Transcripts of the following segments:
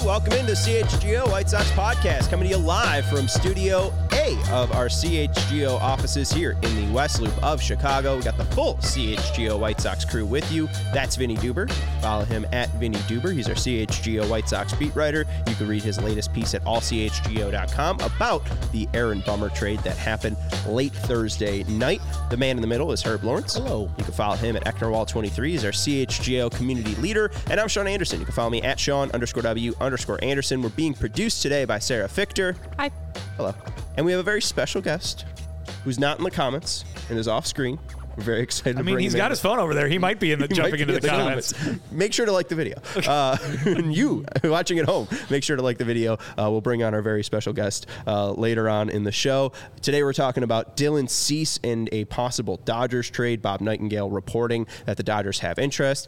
Welcome into CHGO White Sox podcast, coming to you live from Studio A of our CHGO offices here in the West Loop of Chicago. We got the full CHGO White Sox crew with you. That's Vinny Duber. Follow him at Vinny Duber. He's our CHGO White Sox beat writer. You can read his latest piece at allchgo.com about the Aaron Bummer trade that happened late Thursday night. The man in the middle is Herb Lawrence. Hello. You can follow him at Ecknerwall23. He's our CHGO community leader. And I'm Sean Anderson. You can follow me at Sean_W_Anderson. We're being produced today by Sarah Fichter. Hi. Hello. And we have a very special guest who's not in the comments and is off screen. We're very excited to bring him in. He's got his phone over there. He might be jumping into the comments. Make sure to like the video. And you watching at home, make sure to like the video. We'll bring on our very special guest later on in the show. Today we're talking about Dylan Cease and a possible Dodgers trade. Bob Nightingale reporting that the Dodgers have interest.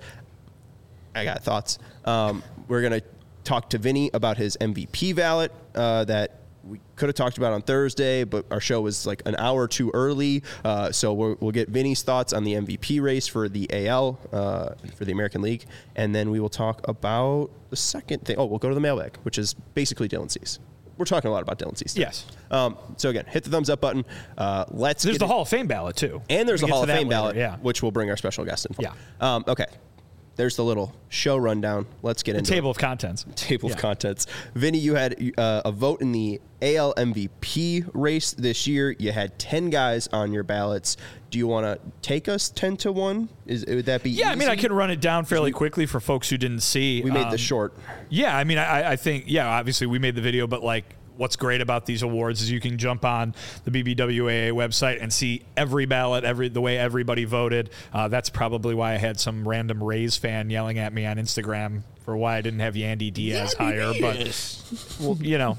I got thoughts. We're going to talk to Vinny about his MVP ballot that we could have talked about on Thursday, but our show was like an hour too early. So we'll get Vinny's thoughts on the MVP race for the AL, for the American League. And then we will talk about the second thing. Oh, we'll go to the mailbag, which is basically Dylan Cease. We're talking a lot about Dylan Cease today. Yes. So again, hit the thumbs up button. There's the Hall of Fame ballot, too. And there's a Hall of Fame ballot, yeah. which we'll bring our special guest in for. Yeah. Okay. There's the little show rundown. Let's get into table of contents. Table of contents. Vinny, you had a vote in the AL MVP race this year. You had 10 guys on your ballots. Do you want to take us 10-1? Would that be easy? I mean, I can run it down fairly quickly for folks who didn't see. We made this short. Yeah, I mean, I think, obviously we made the video, but like, what's great about these awards is you can jump on the BBWAA website and see every ballot, the way everybody voted. That's probably why I had some random Rays fan yelling at me on Instagram for why I didn't have Yandy Diaz higher. But, well,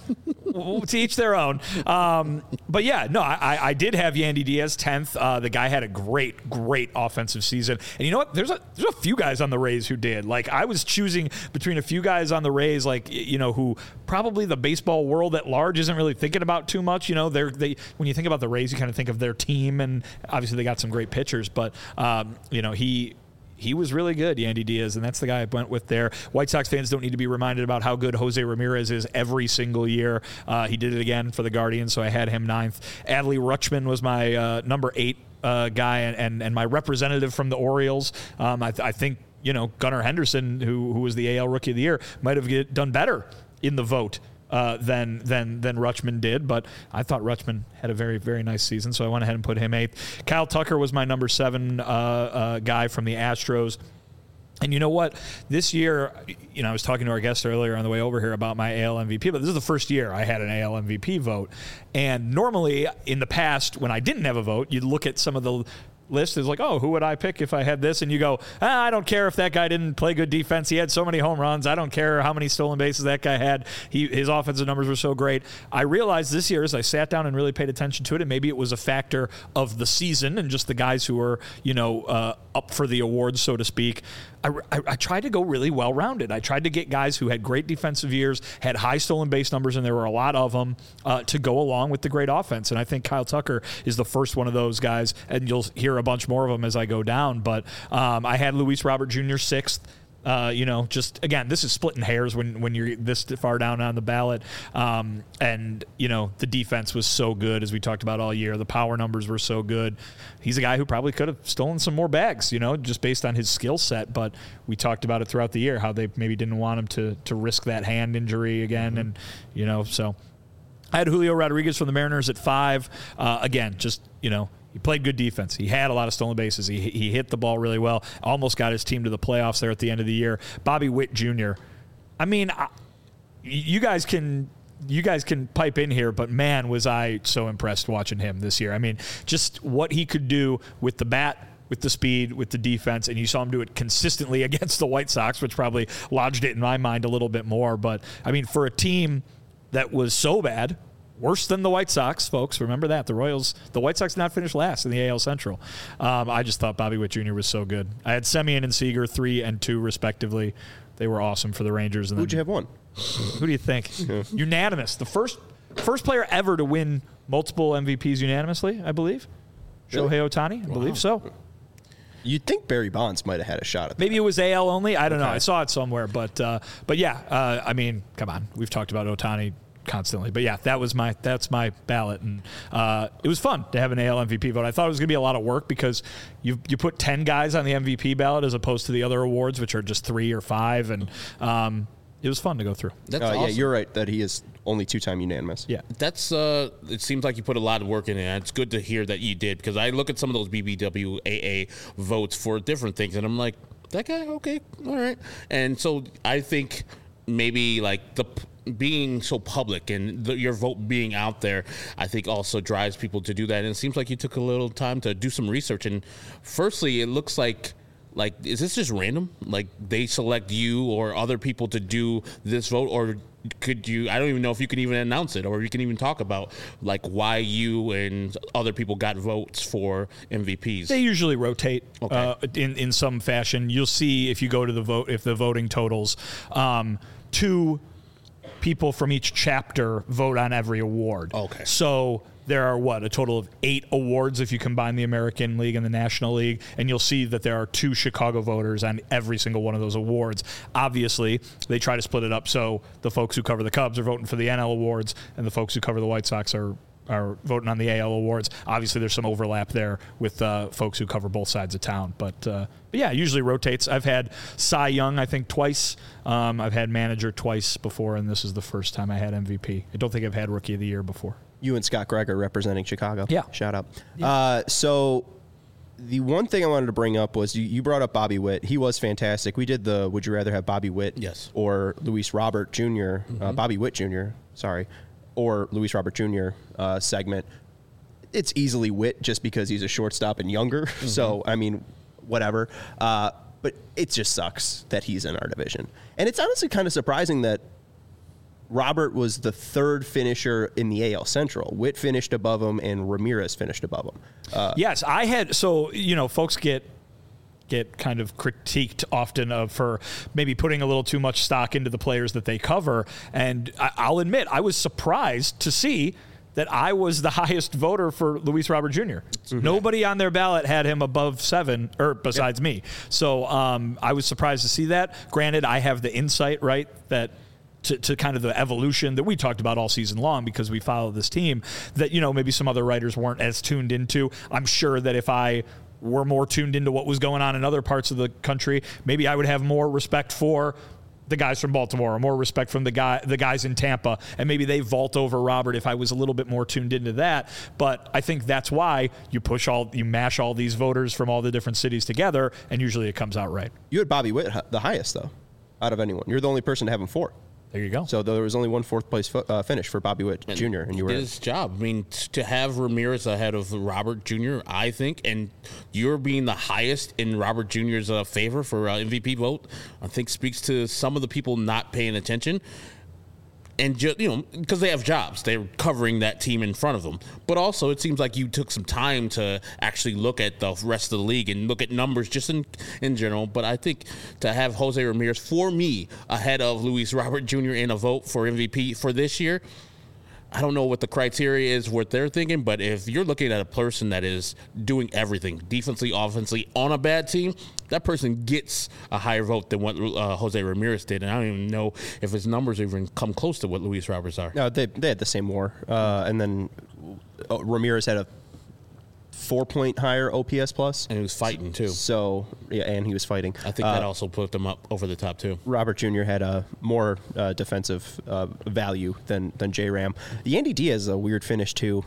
to each their own. But yeah, no, I did have Yandy Diaz 10th. The guy had a great offensive season. And you know what? There's a few guys on the Rays who did. Like, I was choosing between a few guys on the Rays, like, who probably the baseball world at large isn't really thinking about too much. They when you think about the Rays, you kind of think of their team, and obviously they got some great pitchers. But he was really good, Yandy Diaz, and that's the guy I went with there. White Sox fans don't need to be reminded about how good Jose Ramirez is every single year. He did it again for the Guardians, so I had him 9th. Adley Rutschman was my number 8 guy and my representative from the Orioles. I think Gunnar Henderson, who was the AL Rookie of the Year, might have done better in the vote than Rutschman did, but I thought Rutschman had a very, very nice season, so I went ahead and put him 8th. Kyle Tucker was my number 7 guy from the Astros. And you know what? This year, I was talking to our guest earlier on the way over here about my AL MVP, but this is the first year I had an AL MVP vote. And normally, in the past, when I didn't have a vote, you'd look at some of the list is like, oh, who would I pick if I had this? And you go, I don't care if that guy didn't play good defense. He had so many home runs. I don't care how many stolen bases that guy had. His offensive numbers were so great. I realized this year as I sat down and really paid attention to it, and maybe it was a factor of the season and just the guys who were, up for the awards, so to speak. I tried to go really well-rounded. I tried to get guys who had great defensive years, had high stolen base numbers, and there were a lot of them, to go along with the great offense. And I think Kyle Tucker is the first one of those guys, and you'll hear a bunch more of them as I go down. But I had Luis Robert Jr. 6th. Just again, this is splitting hairs when you're this far down on the ballot. The defense was so good, as we talked about all year. The power numbers were so good. He's a guy who probably could have stolen some more bags, just based on his skill set. But we talked about it throughout the year, how they maybe didn't want him to risk that hand injury again. Mm-hmm. And, so I had Julio Rodriguez from the Mariners at 5. He played good defense. He had a lot of stolen bases. He hit the ball really well. Almost got his team to the playoffs there at the end of the year. Bobby Witt Jr. I mean, you guys can pipe in here, but man, was I so impressed watching him this year. I mean, just what he could do with the bat, with the speed, with the defense, and you saw him do it consistently against the White Sox, which probably lodged it in my mind a little bit more. But, I mean, for a team that was so bad, worse than the White Sox, folks. Remember that. The White Sox did not finish last in the AL Central. I just thought Bobby Witt Jr. was so good. I had Semien and Seager 3 and 2 respectively. They were awesome for the Rangers. And who'd you have 1? Who do you think? Unanimous. The first player ever to win multiple MVPs unanimously, I believe. Really? Shohei Ohtani, I believe so. You'd think Barry Bonds might have had a shot at that. Maybe it was AL only. I don't know. I saw it somewhere, but yeah. I mean, come on. We've talked about Ohtani constantly, but yeah, that's my ballot, and it was fun to have an AL MVP vote. I thought it was going to be a lot of work because you put 10 guys on the MVP ballot as opposed to the other awards, which are just 3 or 5, and it was fun to go through. That's awesome. Yeah, you're right that he is only 2-time unanimous. Yeah, that's it seems like you put a lot of work in it. It's good to hear that you did, because I look at some of those BBWAA votes for different things, and I'm like, that guy, okay, all right. And so I think maybe like being so public and your vote being out there, I think also drives people to do that. And it seems like you took a little time to do some research. And firstly, it looks like, is this just random? Like they select you or other people to do this vote, or could you, I don't even know if you can even announce it, or you can even talk about like why you and other people got votes for MVPs. They usually rotate Okay. in some fashion. You'll see if you go to the vote, if the voting totals, 2 people from each chapter vote on every award. Okay. So there are a total of 8 awards if you combine the American League and the National League, and you'll see that there are 2 Chicago voters on every single one of those awards. Obviously, they try to split it up so the folks who cover the Cubs are voting for the NL awards, and the folks who cover the White Sox are voting on the AL awards. Obviously, there's some overlap there with folks who cover both sides of town. But yeah, it usually rotates. I've had Cy Young, I think, twice. I've had manager twice before, and this is the first time I had MVP. I don't think I've had Rookie of the Year before. You and Scott Gregor representing Chicago. Yeah. Shout out. Yeah. So the one thing I wanted to bring up was you brought up Bobby Witt. He was fantastic. We did the Would You Rather Have Bobby Witt Yes. or Luis Robert Jr., Bobby Witt Jr., sorry, or Luis Robert Jr. Segment. It's easily Witt just because he's a shortstop and younger. So, I mean, whatever. But it just sucks that he's in our division. And it's honestly kind of surprising that Robert was the 3rd finisher in the AL Central. Witt finished above him, and Ramirez finished above him. Yes, I had. So, folks get kind of critiqued often for maybe putting a little too much stock into the players that they cover. And I'll admit, I was surprised to see that I was the highest voter for Luis Robert Jr. Nobody on their ballot had him above 7, or besides me. So I was surprised to see that. Granted, I have the insight, right, that to kind of the evolution that we talked about all season long because we follow this team that, maybe some other writers weren't as tuned into. I'm sure that if I were more tuned into what was going on in other parts of the country, maybe I would have more respect for the guys from Baltimore or more respect from the guys in Tampa, and maybe they vault over Robert if I was a little bit more tuned into that. But I think that's why you mash all these voters from all the different cities together, and usually it comes out right. You had Bobby Witt the highest, though, out of anyone. You're the only person to have him 4. There you go. So there was only one 4th place finish for Bobby Witt Jr. And you were did his job. I mean, to have Ramirez ahead of Robert Jr., I think, and you're being the highest in Robert Jr.'s favor for MVP vote, I think speaks to some of the people not paying attention. And just, because they have jobs, they're covering that team in front of them. But also, it seems like you took some time to actually look at the rest of the league and look at numbers just in general. But I think to have Jose Ramirez, for me, ahead of Luis Robert Jr. in a vote for MVP for this year, I don't know what the criteria is, what they're thinking, but if you're looking at a person that is doing everything, defensively, offensively, on a bad team, that person gets a higher vote than what Jose Ramirez did. And I don't even know if his numbers even come close to what Luis Roberts are. No, they had the same WAR. And then Ramirez had a 4-point higher OPS plus. And he was fighting, too. So, yeah, and he was fighting. I think that also put him up over the top, too. Robert Jr. had a more defensive value than J-Ram. Yandy Diaz is a weird finish, too.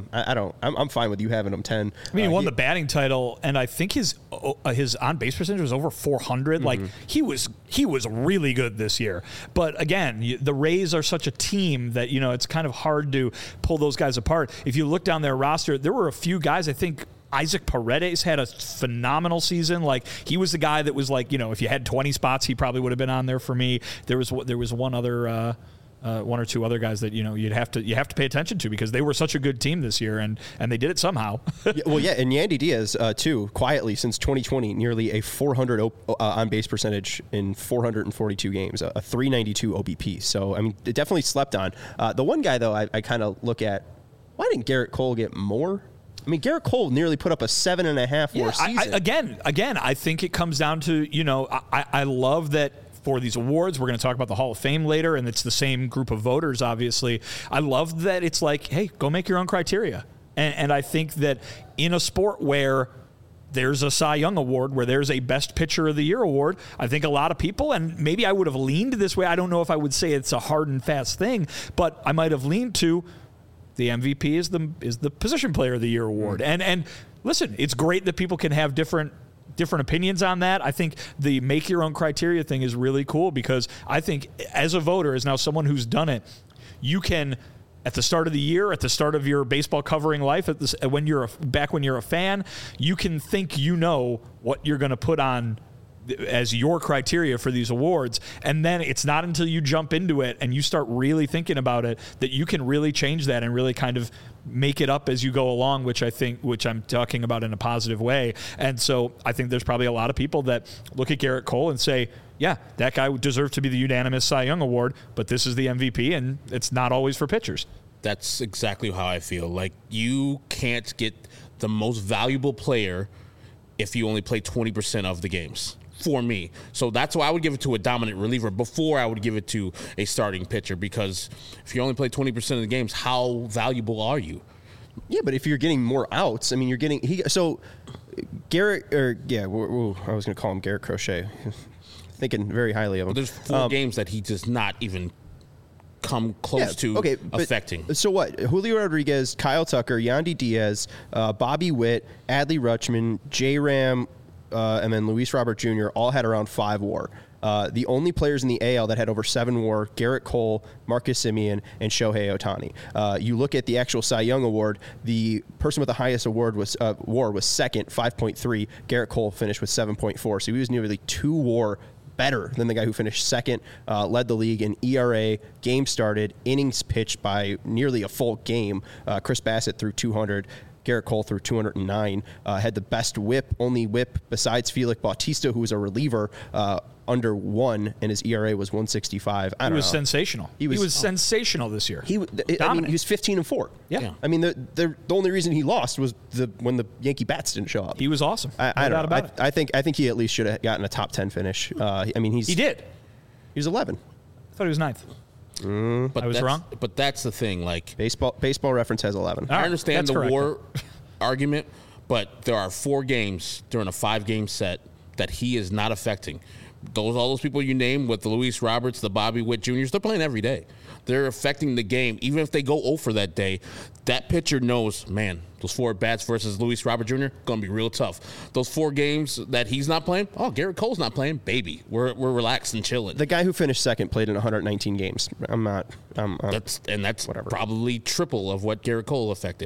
I'm fine with you having him 10. I mean, he won the batting title, and I think his on-base percentage was over 400. Mm-hmm. Like, he was really good this year. But, again, the Rays are such a team that, it's kind of hard to pull those guys apart. If you look down their roster, there were a few guys, I think Isaac Paredes had a phenomenal season. Like, he was the guy that was like, if you had 20 spots, he probably would have been on there for me. There was one other, one or two other guys that you have to pay attention to because they were such a good team this year, and they did it somehow. And Yandy Diaz too, quietly since 2020, nearly a 400 on base percentage in 442 games, a 392 OBP. So I mean, it definitely slept on. The one guy though, I kind of look at, why didn't Garrett Cole get more? I mean, Garrett Cole nearly put up a 7.5 WAR season. Again, I think it comes down to, I love that for these awards. We're going to talk about the Hall of Fame later, and it's the same group of voters, obviously. I love that it's like, hey, go make your own criteria. And I think that in a sport where there's a Cy Young award, where there's a Best Pitcher of the Year award, I think a lot of people, and maybe I would have leaned this way. I don't know if I would say it's a hard and fast thing, but I might have leaned to the MVP is the Position Player of the Year award. And listen, it's great that people can have different opinions on that. I think the make your own criteria thing is really cool, because I think as a voter, as now someone who's done it, you can, at the start of the year, at the start of your baseball covering life, when you're a fan, you can think what you're going to put on as your criteria for these awards. And then it's not until you jump into it and you start really thinking about it that you can really change that and really kind of make it up as you go along, which I'm talking about in a positive way. And so I think there's probably a lot of people that look at Garrett Cole and say, yeah, that guy deserved to be the unanimous Cy Young award, but this is the MVP, and it's not always for pitchers. That's exactly how I feel. Like, you can't get the most valuable player if you only play 20% of the games, for me. So that's why I would give it to a dominant reliever before I would give it to a starting pitcher, because if you only play 20% of the games, how valuable are you? Yeah, but if you're getting more outs, I mean, Garrett, I was going to call him Garrett Crochet. Thinking very highly of him. But there's 4 games that he does not even come close to affecting. So what? Julio Rodriguez, Kyle Tucker, Yandy Diaz, Bobby Witt, Adley Rutschman, J-Ram, and then Luis Robert Jr. all had around 5 WAR. The only players in the AL that had over 7 WAR, Garrett Cole, Marcus Semien, and Shohei Ohtani. You look at the actual Cy Young award, the person with the highest award WAR was second, 5.3. Garrett Cole finished with 7.4. So he was nearly 2 WAR better than the guy who finished second, led the league in ERA, games started, innings pitched by nearly a full game. Chris Bassett threw 200. Garrett Cole threw 209, had the best whip, only whip besides Felix Bautista, who was a reliever, under 1, and his ERA was 1.65. He was sensational. He was sensational this year. He was 15-4. Yeah. I mean, the only reason he lost was when the Yankee bats didn't show up. He was awesome. I don't know. I think he at least should have gotten a top 10 finish. I mean, he did. He was 11. I thought he was 9th. But I was wrong. But that's the thing. Like, Baseball Reference has 11. I understand the WAR argument, but there are 4 games during a 5-game set that he is not affecting. All those people you name, with the Luis Roberts, the Bobby Witt Juniors, they're playing every day. They're affecting the game. Even if they go 0 for that day, that pitcher knows, man, those 4 bats versus Luis Robert Jr., going to be real tough. Those 4 games that he's not playing, Garrett Cole's not playing, baby. We're relaxed and chilling. The guy who finished second played in 119 games. That's whatever. Probably triple of what Garrett Cole affected.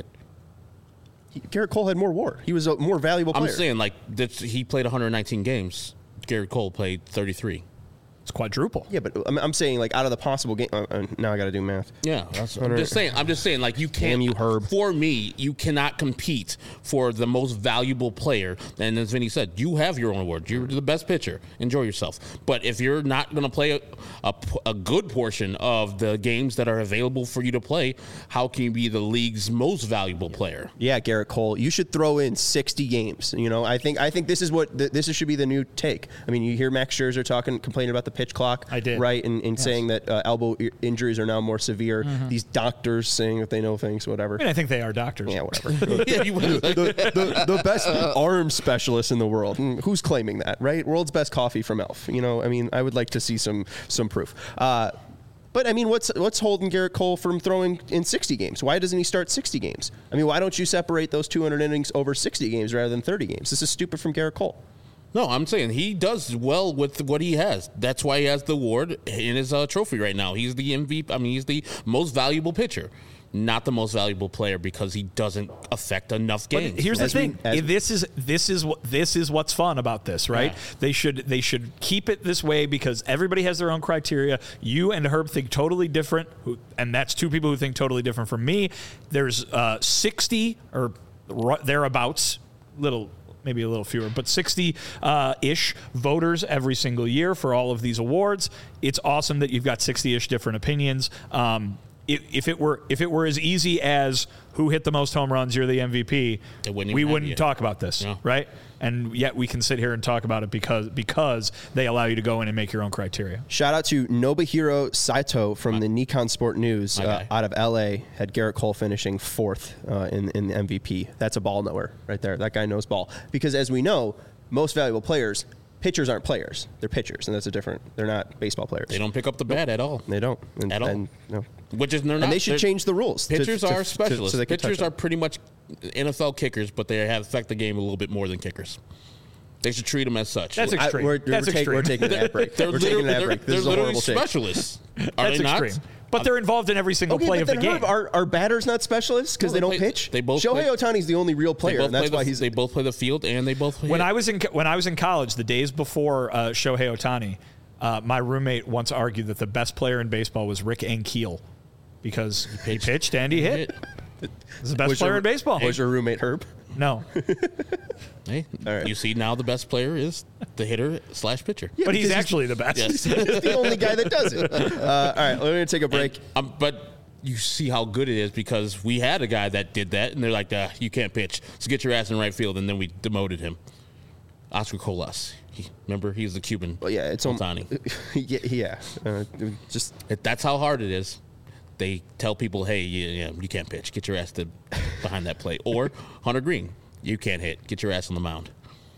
Garrett Cole had more WAR. He was a more valuable player. I'm saying, he played 119 games. Garrett Cole played 33. It's quadruple. Yeah, but I'm saying, like, out of the possible game, now I got to do math. Yeah, I'm just saying, like, you can't. Damn you, Herb. For me, you cannot compete for the most valuable player. And as Vinny said, you have your own award. You're the best pitcher. Enjoy yourself. But if you're not going to play a good portion of the games that are available for you to play, how can you be the league's most valuable player? Yeah, Garrett Cole, you should throw in 60 games. You know, I think this is what this should be the new take. I mean, you hear Max Scherzer complaining about the pitch clock. I did. Right, and saying that elbow injuries are now more severe. Mm-hmm. These doctors saying that they know things, whatever. I mean, I think they are doctors. Yeah, whatever. the best arm specialist in the world. Who's claiming that, right? World's best coffee from Elf. You know, I mean, I would like to see some proof. But I mean, what's holding Garrett Cole from throwing in 60 games? Why doesn't he start 60 games? I mean, why don't you separate those 200 innings over 60 games rather than 30 games? This is stupid from Garrett Cole. No, I'm saying he does well with what he has. That's why he has the award in his trophy right now. He's the MVP. I mean, he's the most valuable pitcher, not the most valuable player, because he doesn't affect enough games. But here's the thing: this is what's fun about this, right? Yeah. They should keep it this way, because everybody has their own criteria. You and Herb think totally different, and that's 2 people who think totally different from me. There's 60 or thereabouts, maybe a little fewer, but 60-ish voters every single year for all of these awards. It's awesome that you've got 60-ish different opinions. if it were as easy as who hit the most home runs, you're the MVP, we wouldn't talk about this, right? And yet we can sit here and talk about it because they allow you to go in and make your own criteria. Shout out to Nobuhiro Saito from the Nikon Sport News out of LA. Had Garrett Cole finishing 4th in the MVP. That's a ball knower right there. That guy knows ball. Because as we know, most valuable players, pitchers aren't players. They're pitchers, and they're not baseball players. They don't pick up the bat at all. They don't. At all. No. Which is they're not. And they should change the rules. Pitchers are specialists. So pitchers are pretty much NFL kickers, but they affect the game a little bit more than kickers. They should treat them as such. That's extreme. We're taking an ad break. They're literally specialists. Are That's they not? extreme. But they're involved in every single play of the game. Are batters not specialists because they don't pitch? They both. Shohei Ohtani's the only real player, and that's why They both play the field, and they both. When I was in college, the days before Shohei Ohtani, my roommate once argued that the best player in baseball was Rick Ankiel because he pitched and he hit. He's the best player in baseball. Was your roommate Herb? No. Hey, right. You see now the best player is the hitter / pitcher. Yeah, but he's actually the best. Yes. He's the only guy that does it. All right, we're going to take a break. But you see how good it is because we had a guy that did that, and they're like, you can't pitch, so get your ass in right field, and then we demoted him. Oscar Colas. Remember, he's the Cuban. Well, yeah, it's Ohtani. Yeah. That's how hard it is. They tell people, hey, you can't pitch. Get your ass behind that plate. Or Hunter Green, you can't hit. Get your ass on the mound.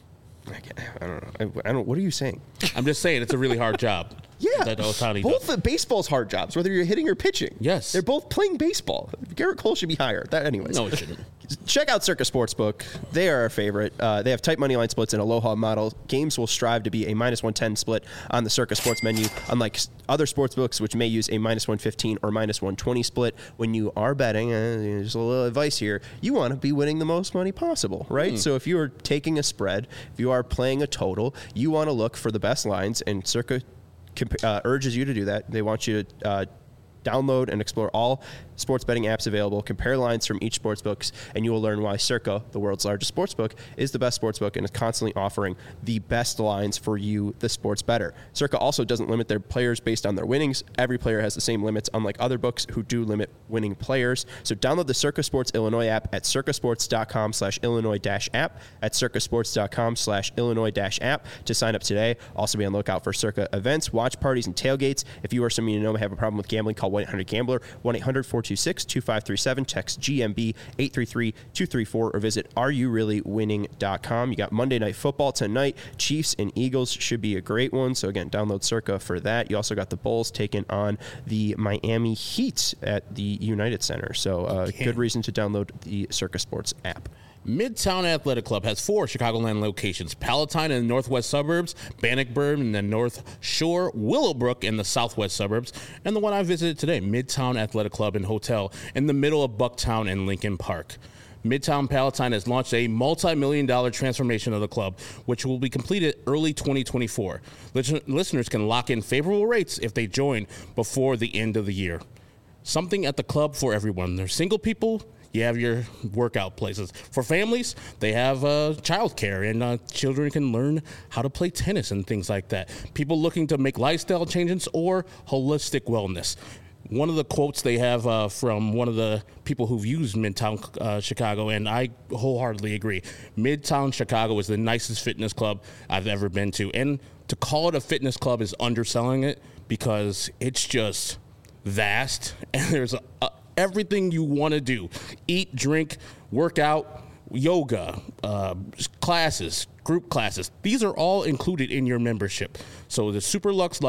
I don't know. What are you saying? I'm just saying it's a really hard job. Yeah, that Ohtani both does. the baseball's hard jobs, whether you're hitting or pitching. Yes. They're both playing baseball. Garrett Cole should be higher. Anyways. No, it shouldn't. Check out Circa Sportsbook. They are our favorite. They have tight money line splits and Aloha model. Games will strive to be a -110 split on the Circa Sports menu, unlike other sportsbooks, which may use a -115 or -120 split. When you are betting, just a little advice here, you want to be winning the most money possible, right? So if you are taking a spread, if you are playing a total, you want to look for the best lines, and Circa urges you to do that. They want you to download and explore all sports betting apps available, compare lines from each sportsbook, and you will learn why Circa, the world's largest sportsbook, is the best sportsbook and is constantly offering the best lines for you, the sports bettor. Circa also doesn't limit their players based on their winnings. Every player has the same limits, unlike other books who do limit winning players. So download the Circa Sports Illinois app at circasports.com/Illinois-app, at circasports.com/Illinois-app to sign up today. Also be on the lookout for Circa events, watch parties, and tailgates. If you or someone you know may have a problem with gambling, call 1-800-GAMBLER, 1-800-426-2537, text GMB 833-234, or visit areyoureallywinning.com. You got Monday Night Football tonight. Chiefs and Eagles should be a great one. So again, download Circa for that. You also got the Bulls taking on the Miami Heat at the United Center. So good reason to download the Circa Sports app. Midtown Athletic Club has 4 Chicagoland locations: Palatine in the northwest suburbs, Bannockburn in the North Shore, Willowbrook in the southwest suburbs, and the one I visited today, Midtown Athletic Club and Hotel in the middle of Bucktown and Lincoln Park. Midtown Palatine has launched a multi-million-dollar transformation of the club, which will be completed early 2024. Listeners can lock in favorable rates if they join before the end of the year. Something at the club for everyone. There's single people. You have your workout places. For families, they have childcare, and children can learn how to play tennis and things like that. People looking to make lifestyle changes or holistic wellness. One of the quotes they have from one of the people who've used Midtown Chicago, and I wholeheartedly agree, Midtown Chicago is the nicest fitness club I've ever been to. And to call it a fitness club is underselling it because it's just vast, and there's everything you want to do: eat, drink, work out, yoga, classes, group classes. These are all included in your membership. So the Super Lux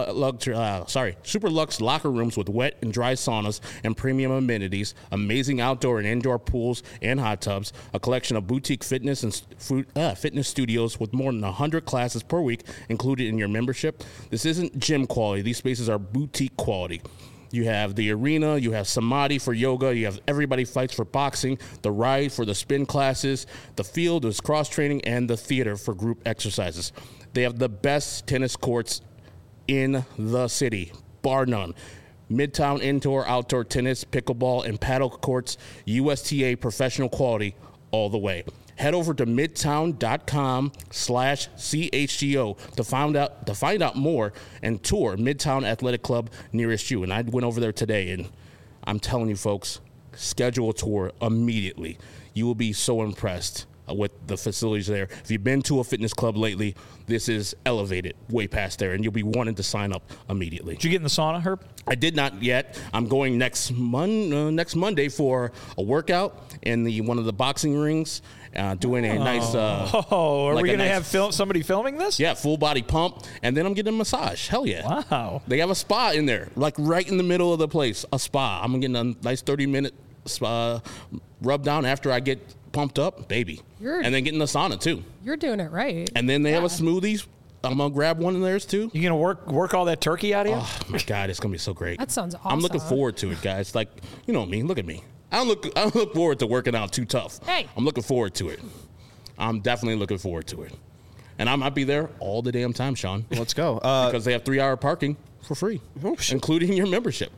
locker rooms with wet and dry saunas and premium amenities, amazing outdoor and indoor pools and hot tubs, a collection of boutique fitness and fitness studios with more than 100 classes per week included in your membership. This isn't gym quality. These spaces are boutique quality. You have the arena, you have Samadhi for yoga, you have Everybody Fights for boxing, the Ride for the spin classes, the field is cross-training, and the theater for group exercises. They have the best tennis courts in the city, bar none. Midtown indoor, outdoor tennis, pickleball, and paddle courts, USTA professional quality all the way. Head over to midtown.com/CHGO to find out more and tour Midtown Athletic Club nearest you. And I went over there today, and I'm telling you, folks, schedule a tour immediately. You will be so impressed with the facilities there. If you've been to a fitness club lately, this is elevated way past there, and you'll be wanting to sign up immediately. Did you get in the sauna, Herb? I did not yet. I'm going next Monday for a workout in one of the boxing rings, doing a nice. Are we going to have somebody filming this? Yeah, full body pump, and then I'm getting a massage. Hell yeah! Wow. They have a spa in there, like right in the middle of the place. A spa. I'm getting a nice 30-minute spa rub down after I get pumped up, baby. And then getting the sauna too. You're doing it right. And then they have a smoothies. I'm gonna grab one of theirs too. You gonna work all that turkey out of you? Oh my God, it's gonna be so great. That sounds awesome. I'm looking forward to it, guys. Like, you know me. Look at me. I don't look forward to working out too tough. Hey. I'm looking forward to it. I'm definitely looking forward to it. And I might be there all the damn time, Sean. Let's go. Because they have 3-hour parking for free, including your membership.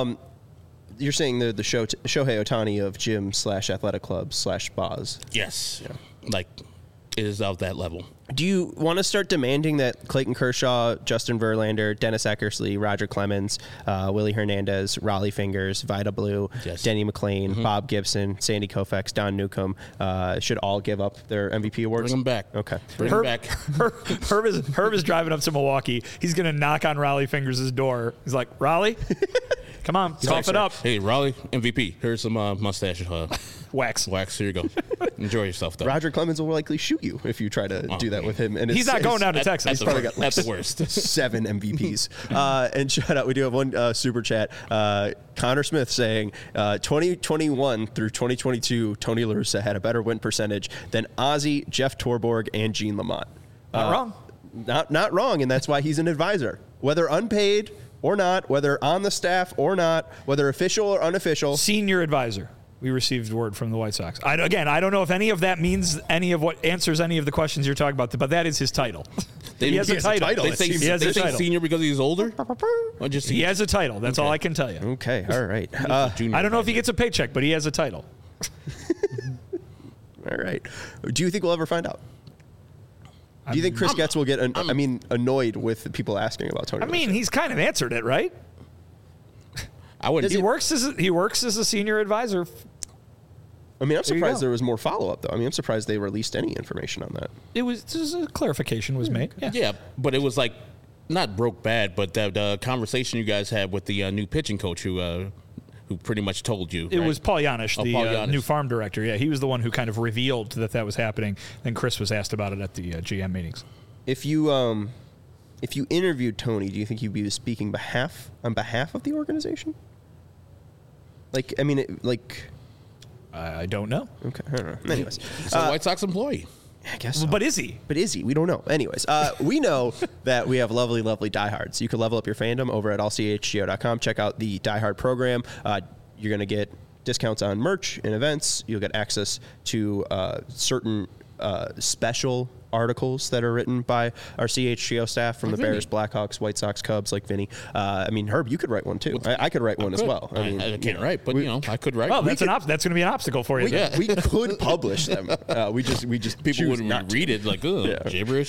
You're saying the Shohei Ohtani of gym/athletic clubs/spas. Yes. Yeah. Like, it is of that level. Do you want to start demanding that Clayton Kershaw, Justin Verlander, Dennis Eckersley, Roger Clemens, Willie Hernandez, Raleigh Fingers, Vida Blue, Denny McLain, Bob Gibson, Sandy Koufax, Don Newcomb should all give up their MVP awards? Bring them back. Okay. Bring them back. Herb is driving up to Milwaukee. He's going to knock on Raleigh Fingers' door. He's like, Raleigh, come on, cough it up. Hey, Raleigh, MVP. Here's some mustache wax. Here you go. Enjoy yourself, though. Roger Clemens will likely shoot you if you try to do that with him. And he's not going down to Texas. He's probably got that's the worst. 7 MVPs. And shout out, we do have one super chat. Connor Smith saying 2021 through 2022, Tony La Russa had a better win percentage than Ozzie, Jeff Torborg, and Gene Lamont. Not wrong. Not wrong, and that's why he's an advisor. Whether unpaid or not, whether on the staff or not, whether official or unofficial. Senior advisor. We received word from the White Sox. I don't know if any of that means any of what answers any of the questions you're talking about, but that is his title. He has a title. They say senior because he's older? Or just he has a title. That's all I can tell you. Okay, all right. I don't know if he gets a paycheck, but he has a title. All right. Do you think we'll ever find out? Do you think Chris Getz will get annoyed with people asking about Tony? I mean, he's kind of answered it, right? I wouldn't. He works as a senior advisor. I mean, I'm surprised there was more follow-up, though. I mean, I'm surprised they released any information on that. It was just a clarification was made. Yeah, but it was like not broke bad, but the conversation you guys had with the new pitching coach who pretty much told you. It right? was Paul Yanish, Paul Yanish. New farm director. Yeah, he was the one who kind of revealed that was happening. Then Chris was asked about it at the GM meetings. If you interviewed Tony, do you think he'd be speaking on behalf of the organization? I don't know. Okay, I don't know. Anyways, he's a White Sox employee. I guess so. But is he? We don't know. Anyways, we know that we have lovely, lovely diehards. You can level up your fandom over at allchgo.com. Check out the diehard program. You're going to get discounts on merch and events. You'll get access to certain special articles that are written by our CHGO staff from the Bears, Blackhawks, White Sox, Cubs, like Vinny. Herb, you could write one too. I could write one as well. I can't write, but I could write. Well, that's going to be an obstacle for you. We could publish them. We just people wouldn't read it like gibberish.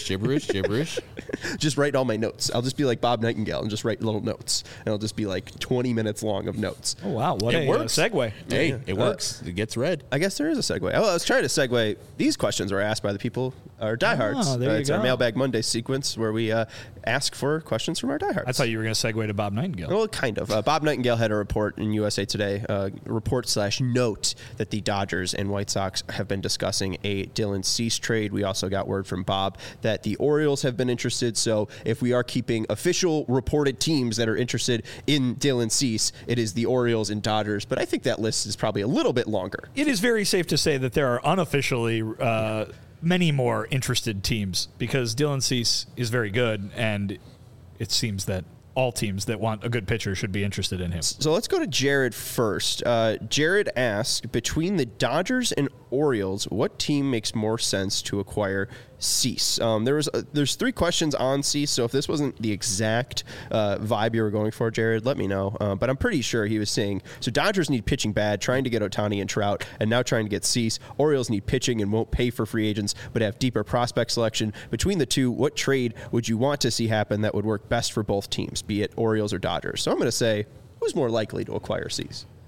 Just write all my notes. I'll just be like Bob Nightingale and just write little notes, and it'll just be like 20 minutes long of notes. Oh wow, what a segue! Hey, it works. It gets read. I guess there is a segue. I was trying to segue. These questions were asked by the people, our diehards. It's our Mailbag Monday sequence where we ask for questions from our diehards. I thought you were going to segue to Bob Nightingale. Well, kind of. Bob Nightingale had a report in USA Today, report/note that the Dodgers and White Sox have been discussing a Dylan Cease trade. We also got word from Bob that the Orioles have been interested. So if we are keeping official reported teams that are interested in Dylan Cease, it is the Orioles and Dodgers. But I think that list is probably a little bit longer. It is very safe to say that there are unofficially many more interested teams because Dylan Cease is very good, and it seems that all teams that want a good pitcher should be interested in him. So let's go to Jared first. Jared asked, between the Dodgers and Orioles, what team makes more sense to acquire Cease? There's 3 questions on Cease, so if this wasn't the exact vibe you were going for, Jared, let me know. But I'm pretty sure he was saying, so Dodgers need pitching bad, trying to get Ohtani and Trout, and now trying to get Cease. Orioles need pitching and won't pay for free agents, but have deeper prospect selection. Between the two, what trade would you want to see happen that would work best for both teams, be it Orioles or Dodgers? So I'm going to say, who's more likely to acquire Cease?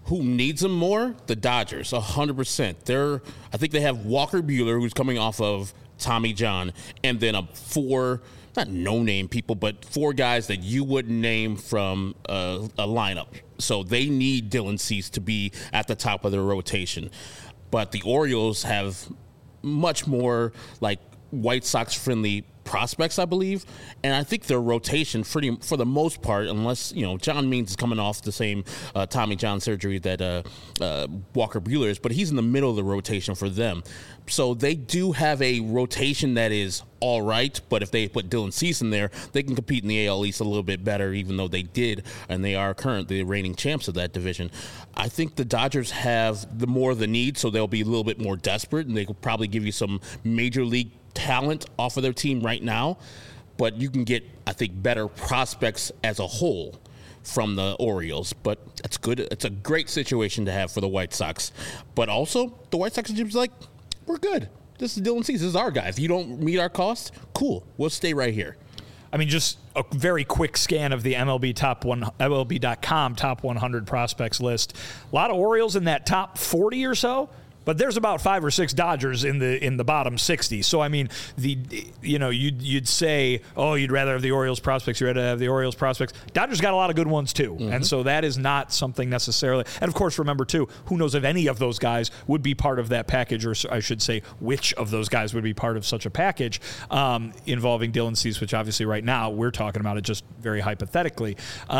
Who needs them more? The Dodgers, 100%. I think they have Walker Buehler, who's coming off of Tommy John, and then not no-name people, but 4 guys that you wouldn't name from a lineup. So they need Dylan Cease to be at the top of their rotation. But the Orioles have much more like White Sox-friendly prospects, I believe, and I think their rotation, for the most part, unless John Means is coming off the same Tommy John surgery that Walker Buehler is, but he's in the middle of the rotation for them. So they do have a rotation that is all right, but if they put Dylan Cease in there, they can compete in the AL East a little bit better, even though they did, and they are currently the reigning champs of that division. I think the Dodgers have the more of the need, so they'll be a little bit more desperate, and they could probably give you some major league talent off of their team right now, but you can get, I think, better prospects as a whole from the Orioles. But that's good. It's a great situation to have for the White Sox. But also, the White Sox are like, we're good. This is Dylan Cease. This is our guy. If you don't meet our costs, cool. We'll stay right here. I mean, just a very quick scan of the MLB.com top 100 prospects list. A lot of Orioles in that top 40 or so. But there's about 5 or 6 Dodgers in the bottom 60. So I mean, you'd say, oh, you'd rather have the Orioles prospects. You'd rather have the Orioles prospects. Dodgers got a lot of good ones too, and so that is not something necessarily. And of course, remember too, who knows if any of those guys would be part of that package, or I should say, which of those guys would be part of such a package involving Dylan Cease, which obviously right now we're talking about it just very hypothetically.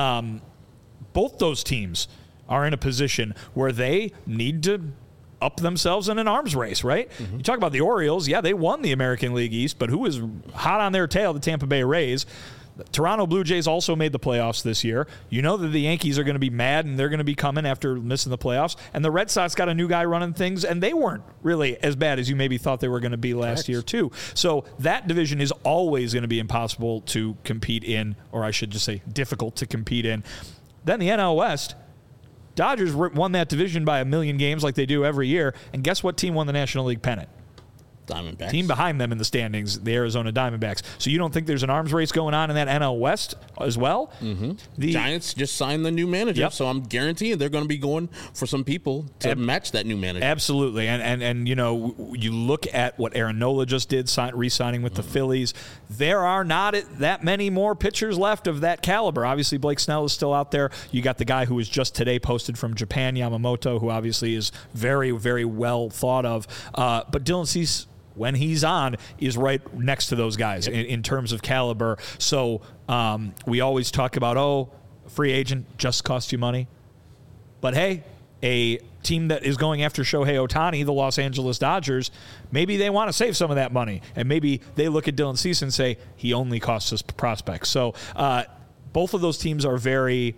Both those teams are in a position where they need to up themselves in an arms race, right? You talk about the Orioles. Yeah, they won the American League East, but who was hot on their tail? The Tampa Bay Rays. The Toronto Blue Jays also made the playoffs this year. You know that the Yankees are going to be mad, and they're going to be coming after missing the playoffs. And the Red Sox got a new guy running things, and they weren't really as bad as you maybe thought they were going to be last year, too. So that division is always going to be impossible to compete in, or I should just say difficult to compete in. Then the NL West. Dodgers won that division by 1 million games like they do every year. And guess what team won the National League pennant? Diamondbacks. Team behind them in the standings, the Arizona Diamondbacks. So you don't think there's an arms race going on in that NL West as well? The Giants just signed the new manager, so I'm guaranteeing they're going to be going for some people to match that new manager. Absolutely. And you look at what Aaron Nola just did, re-signing with the Phillies. There are not that many more pitchers left of that caliber. Obviously, Blake Snell is still out there. You got the guy who was just today posted from Japan, Yamamoto, who obviously is very, very well thought of. But Dylan Cease, when he's on, is right next to those guys in terms of caliber. So we always talk about, free agent just costs you money. But hey, a team that is going after Shohei Ohtani, the Los Angeles Dodgers, maybe they want to save some of that money. And maybe they look at Dylan Cease and say, he only costs us prospects. So both of those teams are very,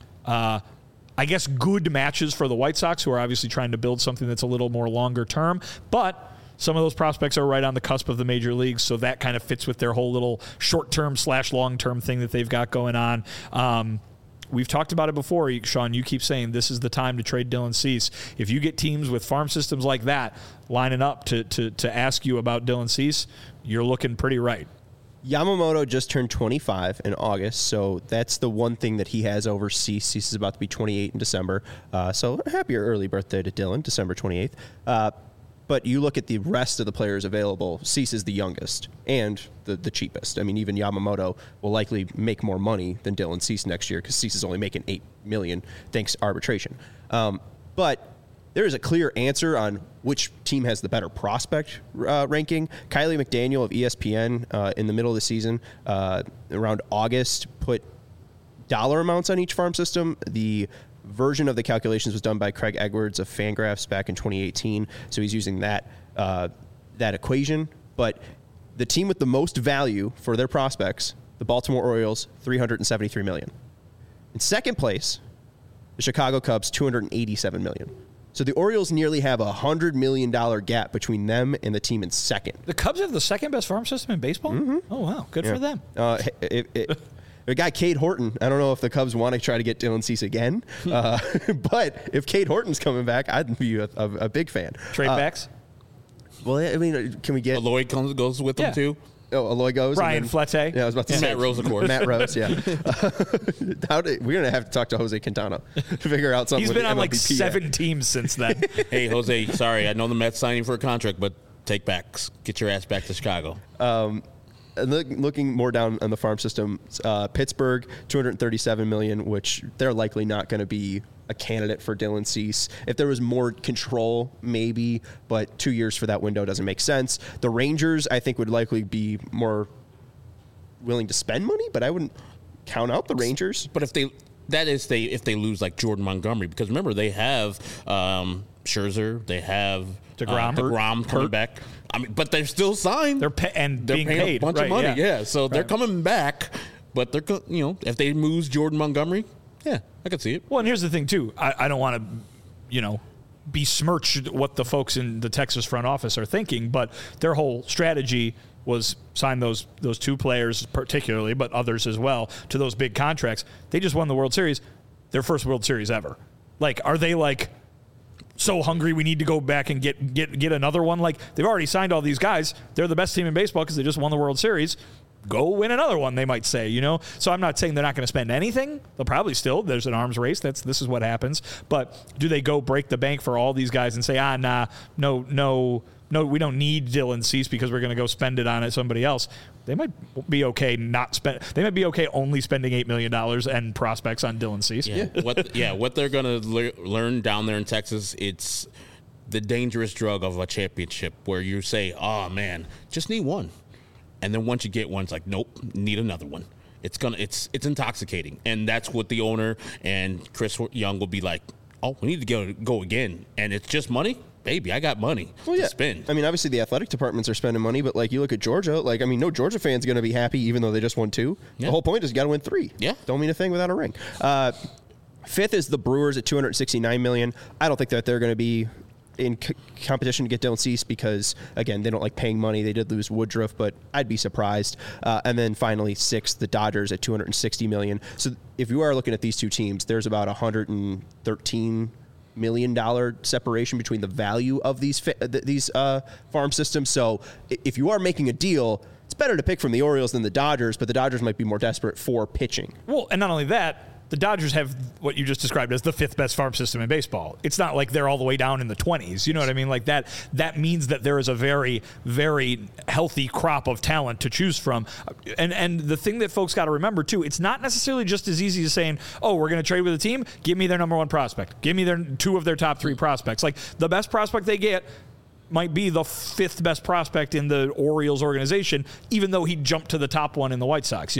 good matches for the White Sox, who are obviously trying to build something that's a little more longer term. But some of those prospects are right on the cusp of the major leagues, so that kind of fits with their whole little short-term / long-term thing that they've got going on. We've talked about it before, Sean. You keep saying this is the time to trade Dylan Cease. If you get teams with farm systems like that lining up to ask you about Dylan Cease, you're looking pretty right. Yamamoto just turned 25 in August, so that's the one thing that he has over Cease. Cease is about to be 28 in December, so happier early birthday to Dylan, December 28th. But you look at the rest of the players available, Cease is the youngest and the cheapest. I mean, even Yamamoto will likely make more money than Dylan Cease next year because Cease is only making $8 million thanks to arbitration. But there is a clear answer on which team has the better prospect ranking. Kylie McDaniel of ESPN in the middle of the season, around August, put dollar amounts on each farm system. The version of the calculations was done by Craig Edwards of Fangraphs back in 2018, so he's using that equation. But the team with the most value for their prospects, the Baltimore Orioles, $373 million. In second place, the Chicago Cubs, $287 million. So the Orioles nearly have a $100 million gap between them and the team in second. The Cubs have the second best farm system in baseball? Oh, wow. Good for them. The guy, Cade Horton, I don't know if the Cubs want to try to get Dylan Cease again, but if Cade Horton's coming back, I'd be a big fan. Trade backs? Well, I mean, can we get... Lloyd goes with them too? Eloy goes. Brian Flete. Yeah, I was about to say Matt Rose, of course. Matt Rose, yeah. We're gonna have to talk to Jose Quintana to figure out something. He's been on like MLBPA. 7 teams since then. Hey, Jose, sorry, I know the Mets signing for a contract, but take back. Get your ass back to Chicago. And looking more down on the farm system, Pittsburgh, $237 million, which they're likely not going to be a candidate for Dylan Cease. If there was more control, maybe, but 2 years for that window doesn't make sense. The Rangers, I think, would likely be more willing to spend money, but I wouldn't count out the Rangers. But if they lose like Jordan Montgomery, because remember they have Scherzer, they have DeGrom coming back. I mean, but they're still signed. They're being paid a bunch of money. Yeah, so they're coming back. But they're if they lose Jordan Montgomery, yeah, I could see it. Well, and here's the thing too. I don't want to, besmirch what the folks in the Texas front office are thinking, but their whole strategy was sign those 2 players particularly, but others as well, to those big contracts. They just won the World Series, their first World Series ever. Like, are they like so hungry we need to go back and get another one? Like, they've already signed all these guys. They're the best team in baseball because they just won the World Series. Go win another one, they might say, So I'm not saying they're not going to spend anything. They'll probably still. There's an arms race. This is what happens. But do they go break the bank for all these guys and say, no, we don't need Dylan Cease because we're going to go spend it on somebody else? They might be okay They might be okay only spending $8 million and prospects on Dylan Cease. Yeah. What they're going to learn down there in Texas, it's the dangerous drug of a championship where you say, oh man, just need one. And then once you get one, it's like, nope, need another one. It's intoxicating. And that's what the owner and Chris Young will be like, oh, we need to go again. And it's just money? Baby, I got money to spend. I mean, obviously the athletic departments are spending money, but like you look at Georgia, no Georgia fan's going to be happy even though they just won 2. Yeah. The whole point is you got to win 3. Yeah. Don't mean a thing without a ring. 5th is the Brewers at $269 million. I don't think that they're going to be in competition to get Dylan Cease because, again, they don't like paying money. They did lose Woodruff, but I'd be surprised. And then finally, 6th, the Dodgers at $260 million. So if you are looking at these 2 teams, there's about $113 million separation between the value of these farm systems. So if you are making a deal, it's better to pick from the Orioles than the Dodgers, but the Dodgers might be more desperate for pitching. Well, and not only that, the Dodgers have what you just described as the 5th best farm system in baseball. It's not like they're all the way down in the 20s. You know what I mean? Like that means that there is a very, very healthy crop of talent to choose from. And the thing that folks got to remember too, it's not necessarily just as easy as saying, oh, we're going to trade with a team. Give me their number 1 prospect. Give me their 2 of their top 3 prospects. Like the best prospect they get might be the 5th best prospect in the Orioles organization, even though he jumped to the top one in the White Sox.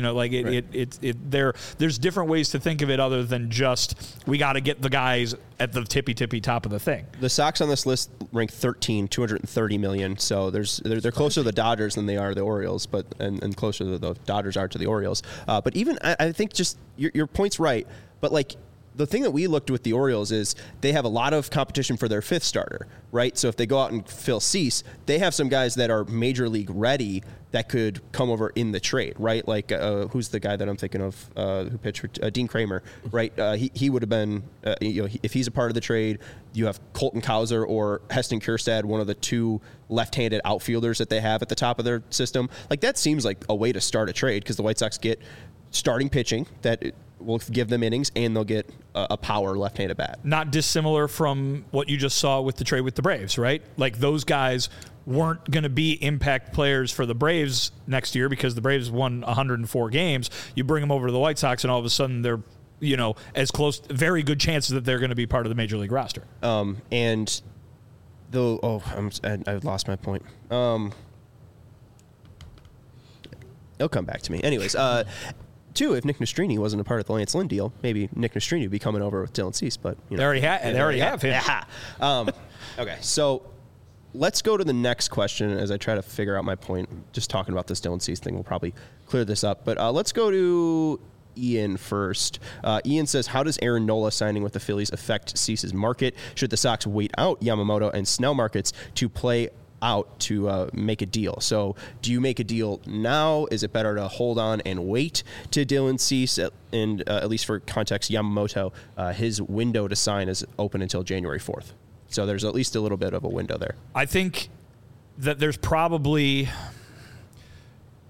There's different ways to think of it other than just we got to get the guys at the tippy top of the thing. The Sox on this list rank 13, $230 million. So they're closer to the Dodgers than they are the Orioles, but and closer to the Dodgers are to the Orioles. But even I think just your point's right, but like. The thing that we looked with the Orioles is they have a lot of competition for their 5th starter, right? So if they go out and fill Cease, they have some guys that are major league ready that could come over in the trade, right? Like who's the guy that I'm thinking of who pitched for Dean Kramer, right? He would have been, if he's a part of the trade, you have Colton Cowser or Heston Kjerstad, one of the 2 left-handed outfielders that they have at the top of their system. Like that seems like a way to start a trade because the White Sox get starting pitching that will give them innings, and they'll get a power left-handed bat. Not dissimilar from what you just saw with the trade with the Braves, right? Like those guys weren't going to be impact players for the Braves next year because the Braves won 104 games. You bring them over to the White Sox, and all of a sudden they're, as close, very good chances that they're going to be part of the major league roster. And though, I lost my point. It'll come back to me. Anyways, 2, if Nick Nastrini wasn't a part of the Lance Lynn deal, maybe Nick Nastrini would be coming over with Dylan Cease. But they already have him. Yeah. Okay, so let's go to the next question as I try to figure out my point. Just talking about this Dylan Cease thing will probably clear this up. But let's go to Ian first. Ian says, how does Aaron Nola signing with the Phillies affect Cease's market? Should the Sox wait out Yamamoto and Snell markets to play out to make a deal? So do you make a deal now? Is it better to hold on and wait to Dylan Cease? And at least for context, Yamamoto, his window to sign is open until January 4th. So there's at least a little bit of a window there. I think that there's probably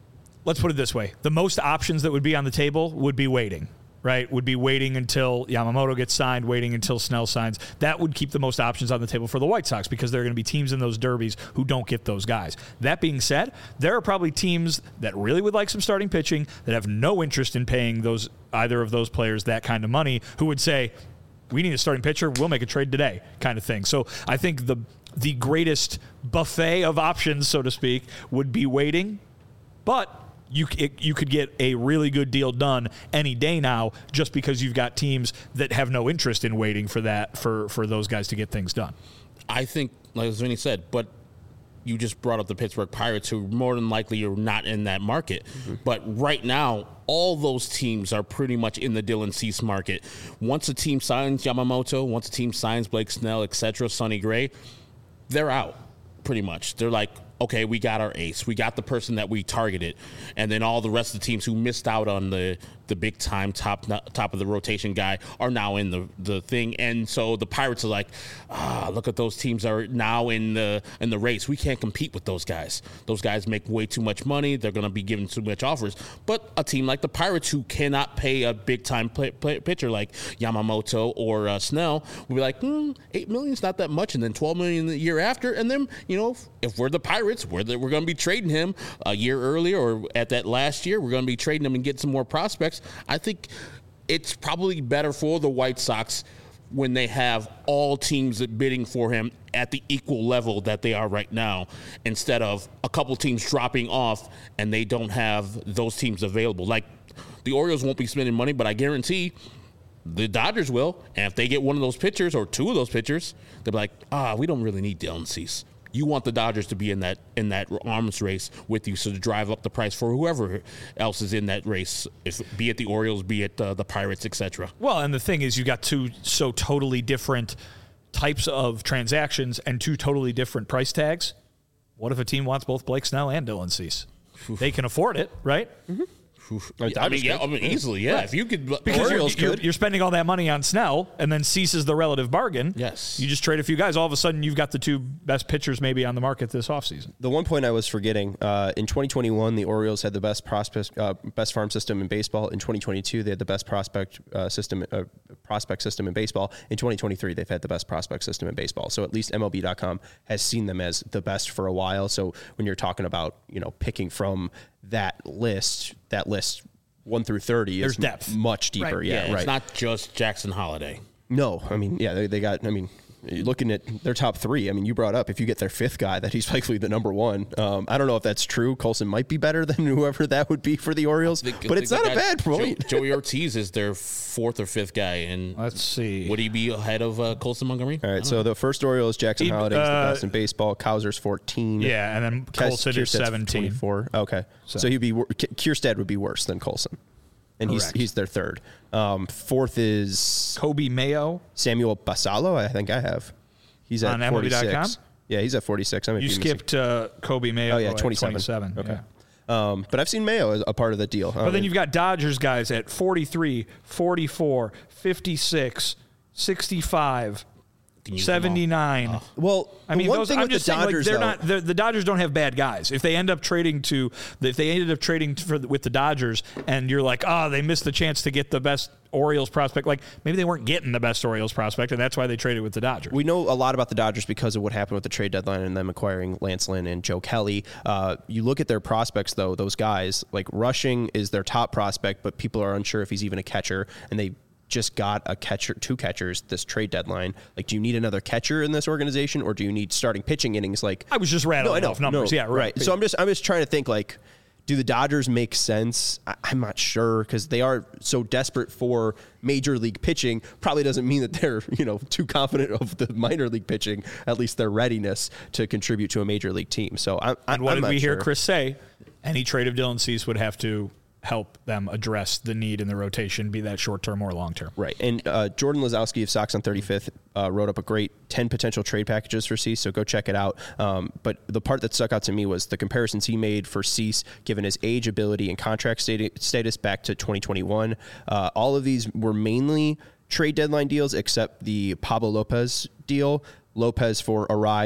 let's put it this way. The most options that would be on the table would be waiting, right? Would be waiting until Yamamoto gets signed, waiting until Snell signs. That would keep the most options on the table for the White Sox because there are going to be teams in those derbies who don't get those guys. That being said, there are probably teams that really would like some starting pitching that have no interest in paying either of those players that kind of money, who would say, we need a starting pitcher, we'll make a trade today, kind of thing. So I think the greatest buffet of options, so to speak, would be waiting, but you could get a really good deal done any day now just because you've got teams that have no interest in waiting for that for those guys to get things done. I think, like as Vinny said, but you just brought up the Pittsburgh Pirates, who more than likely are not in that market. Mm-hmm. But right now, all those teams are pretty much in the Dylan Cease market. Once a team signs Yamamoto, once a team signs Blake Snell, etc., Sonny Gray, they're out pretty much. They're like, okay, we got our ace. We got the person that we targeted. And then all the rest of the teams who missed out on the big time top of the rotation guy are now in the thing. And so the Pirates are like, look at those teams are now in the race. We can't compete with those guys. Those guys make way too much money. They're going to be given too much offers. But a team like the Pirates, who cannot pay a big time pitcher like Yamamoto or Snell, will be like, $8 million is not that much. And then $12 million the year after. And then, if we're the Pirates, we're going to be trading him a year earlier or at that last year. We're going to be trading him and get some more prospects. I think it's probably better for the White Sox when they have all teams bidding for him at the equal level that they are right now, instead of a couple teams dropping off and they don't have those teams available. Like, the Orioles won't be spending money, but I guarantee the Dodgers will. And if they get one of those pitchers or two of those pitchers, they'll be like, we don't really need Dylan Cease. You want the Dodgers to be in that arms race with you, so to drive up the price for whoever else is in that race, be it the Orioles, be it the Pirates, etc. Well, and the thing is, you got two so totally different types of transactions and two totally different price tags. What if a team wants both Blake Snell and Dylan Cease? They can afford it, right? Mm-hmm. Easily, yeah. Right. If you could, because you're spending all that money on Snell, and then Cease is the relative bargain. Yes, you just trade a few guys. All of a sudden, you've got the two best pitchers maybe on the market this offseason. The one point I was forgetting: in 2021, the Orioles had the best best farm system in baseball. In 2022, they had the best prospect system in baseball. In 2023, they've had the best prospect system in baseball. So at least MLB.com has seen them as the best for a while. So when you're talking about picking from that list 1 through 30 there's is depth. Much deeper. Right. Yeah, right. It's not just Jackson Holiday. No, they got. Looking at their top three, you brought up if you get their fifth guy that he's likely the number one. I don't know if that's true. Colson might be better than whoever that would be for the Orioles, but it's not a bad point. Joey Ortiz is their fourth or fifth guy, and let's see, would he be ahead of Colson Montgomery? All right, so the first Orioles, Jackson Holiday is the best in baseball. Kowser's 14. Yeah, and then Colson is 17. 24. Okay, so he'd be Kierstead would be worse than Colson. And he's their third. Fourth is Kobe Mayo. Samuel Basallo, I think I have. He's at on 46. MLB.com? Yeah, he's at 46. You skipped Kobe Mayo. Oh, yeah, 27. Okay. Yeah. But I've seen Mayo as a part of the deal. But then you've got Dodgers guys at 43, 44, 56, 65, 79. Well, those, I'm just saying, Dodgers, they're not. The Dodgers don't have bad guys. If they ended up trading with the Dodgers, and you're like, they missed the chance to get the best Orioles prospect. Like, maybe they weren't getting the best Orioles prospect, and that's why they traded with the Dodgers. We know a lot about the Dodgers because of what happened with the trade deadline and them acquiring Lance Lynn and Joe Kelly. You look at their prospects, though; those guys, like Rushing, is their top prospect, but people are unsure if he's even a catcher, and they just got two catchers this trade deadline. Like, do you need another catcher in this organization, or do you need starting pitching innings? Like, I was just rattling off numbers. Yeah, right. So I'm just trying to think, like, do the Dodgers make sense? I'm not sure, because they are so desperate for major league pitching. Probably doesn't mean that they're too confident of the minor league pitching, at least their readiness to contribute to a major league team. So what did we hear Chris say? Any trade of Dylan Cease would have to help them address the need in the rotation, be that short-term or long-term. Right. And Jordan Lazowski of Sox on 35th wrote up a great 10 potential trade packages for Cease, so go check it out. But the part that stuck out to me was the comparisons he made for Cease, given his age, ability, and contract status back to 2021. All of these were mainly trade deadline deals, except the Pablo Lopez deal. Lopez for Arise,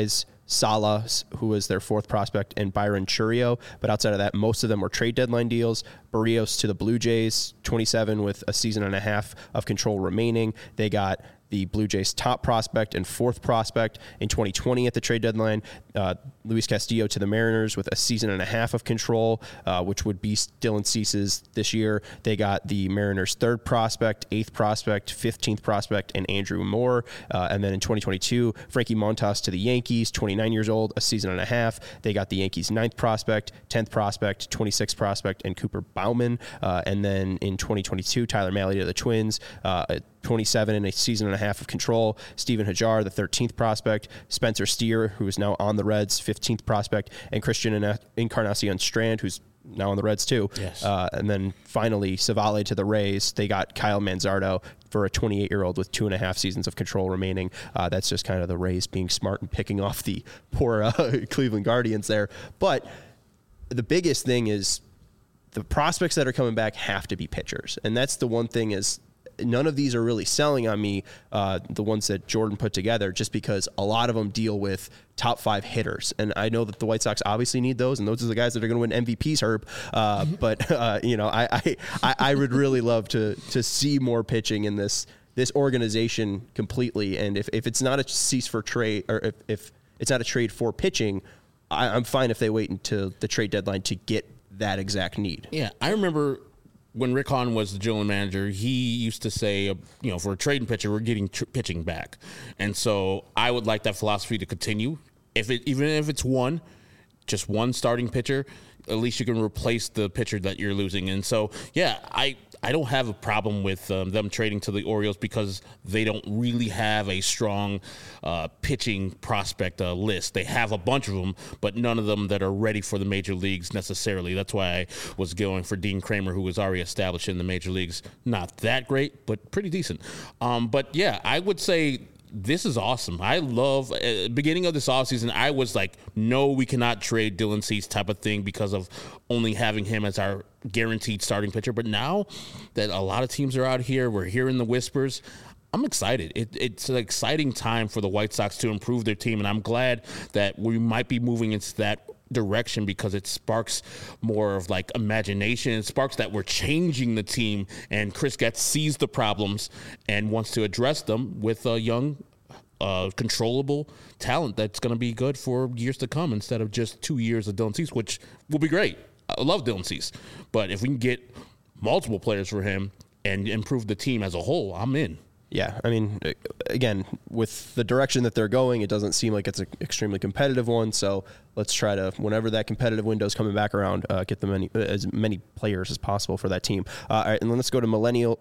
Salas, who was their 4th prospect, and Byron Churio. But outside of that, most of them were trade deadline deals. Barrios to the Blue Jays, 27 with a season and a half of control remaining. They got the Blue Jays' top prospect and 4th prospect in 2020 at the trade deadline. Luis Castillo to the Mariners with a season and a half of control, which would be Dylan Cease's this year. They got the Mariners' 3rd prospect, 8th prospect, 15th prospect, and Andrew Moore. And then in 2022, Frankie Montas to the Yankees, 29 years old, a season and a half. They got the Yankees' 9th prospect, 10th prospect, 26th prospect, and Cooper Bauman. And then in 2022, Tyler Mahle to the Twins, 27 and a season and a half of control. Steven Hajar, the 13th prospect. Spencer Steer, who is now on the Reds, 15th prospect. And Christian Encarnacion Strand, who's now on the Reds too. Yes. And then finally, Savale to the Rays. They got Kyle Manzardo for a 28-year-old with 2.5 seasons of control remaining. That's just kind of the Rays being smart and picking off the poor Cleveland Guardians there. But the biggest thing is the prospects that are coming back have to be pitchers. And that's the one thing is none of these are really selling on me, the ones that Jordan put together, just because a lot of them deal with top 5 hitters. And I know that the White Sox obviously need those, and those are the guys that are going to win MVPs, Herb. But I would really love to see more pitching in this organization completely. And if it's not a cease for trade, or if it's not a trade for pitching, I'm fine if they wait until the trade deadline to get that exact need. Yeah, I remember when Rick Hahn was the general manager, he used to say, for a trading pitcher, we're getting pitching back. And so I would like that philosophy to continue. Even if it's just one starting pitcher, at least you can replace the pitcher that you're losing. And so, yeah, I don't have a problem with them trading to the Orioles because they don't really have a strong pitching prospect list. They have a bunch of them, but none of them that are ready for the major leagues necessarily. That's why I was going for Dean Kramer, who was already established in the major leagues. Not that great, but pretty decent. But, yeah, I would say this is awesome. I love beginning of this offseason. I was like, no, we cannot trade Dylan Cease type of thing because of only having him as our guaranteed starting pitcher. But now that a lot of teams are out here, we're hearing the whispers. I'm excited. It's an exciting time for the White Sox to improve their team, and I'm glad that we might be moving into that direction because it sparks more of like imagination. It sparks that we're changing the team, and Chris Getz sees the problems and wants to address them with a young, controllable talent that's going to be good for years to come instead of just 2 years of Dylan Cease, which will be great. I love Dylan Cease, but if we can get multiple players for him and improve the team as a whole, I'm in. Yeah, I mean, again, with the direction that they're going, it doesn't seem like it's an extremely competitive one. So let's try to, whenever that competitive window is coming back around, get as many players as possible for that team. All right, and then let's go to Millennial.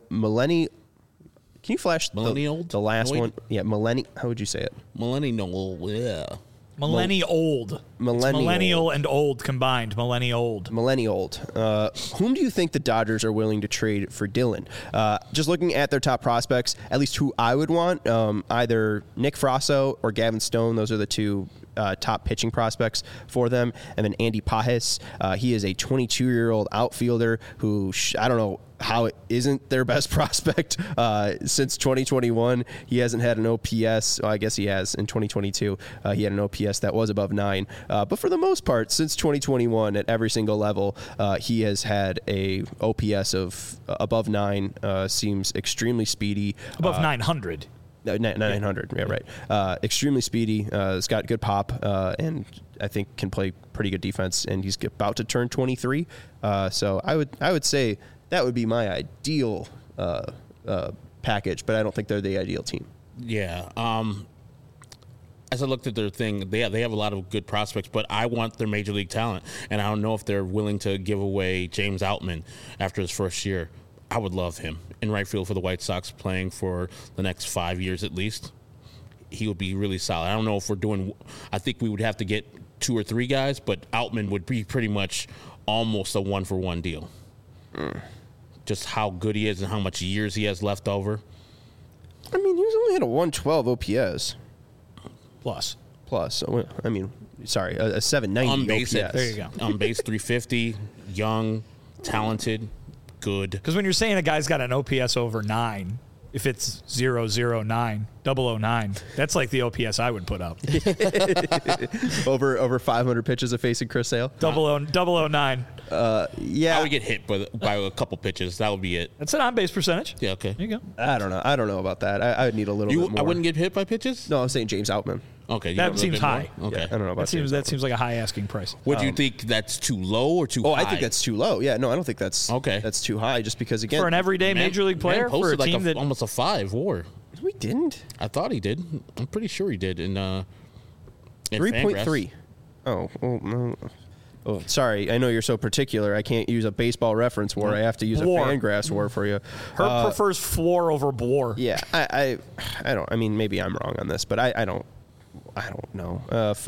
Can you flash the last one? Yeah, how would you say it? Millennial, yeah. Millennial and old combined. Millennial. Whom do you think the Dodgers are willing to trade for Dylan? Just looking at their top prospects, at least who I would want, either Nick Frasso or Gavin Stone. Those are the two top pitching prospects for them. And then Andy Pajes. He is a 22-year-old outfielder who, I don't know how it isn't their best prospect since 2021. He hasn't had an OPS. Well, I guess he has in 2022. He had an OPS that was above 9. But for the most part, since 2021, at every single level, he has had a OPS of above 9. Seems extremely speedy. Above 900. 900, yeah, right. Extremely speedy. He's got good pop, and I think can play pretty good defense. And he's about to turn 23. So I would say that would be my ideal package, but I don't think they're the ideal team. Yeah. As I looked at their thing, they have a lot of good prospects, but I want their major league talent, and I don't know if they're willing to give away James Outman after his first year. I would love him in right field for the White Sox playing for the next 5 years at least. He would be really solid. I don't know if we're doing – I think we would have to get 2 or 3 guys, but Outman would be pretty much almost a one-for-one deal. Just how good he is and how much years he has left over. I mean, he's only had a 112 OPS. Plus. So, I mean, sorry, a 790 on base, OPS. There you go. On base 350, young, talented, good. Because when you're saying a guy's got an OPS over 9, if it's 009, 009, that's like the OPS I would put up. over 500 pitches of facing Chris Sale. 009. Yeah. I would get hit by a couple pitches. That would be it. That's an on-base percentage. Yeah, okay. There you go. I don't know about that. I would need a little bit more. I wouldn't get hit by pitches? No, I'm saying James Outman. Okay. That seems high. Okay. Yeah, I don't know about That seems like a high asking price. Would you think that's too low or too high? I think that's too low. Yeah, no, I don't think that's Okay. That's too high. Just because again, For an everyday major league player, for a posted team that almost a 5 WAR. we didn't I thought he did. I'm pretty sure he did in 3.3. Oh, well, no. Oh, sorry. I know you're so particular. I can't use a baseball reference WAR. I have to use a WAR. Fangraphs WAR for you. Herb prefers floor over WAR. Yeah, I don't. I mean, maybe I'm wrong on this, but I don't know.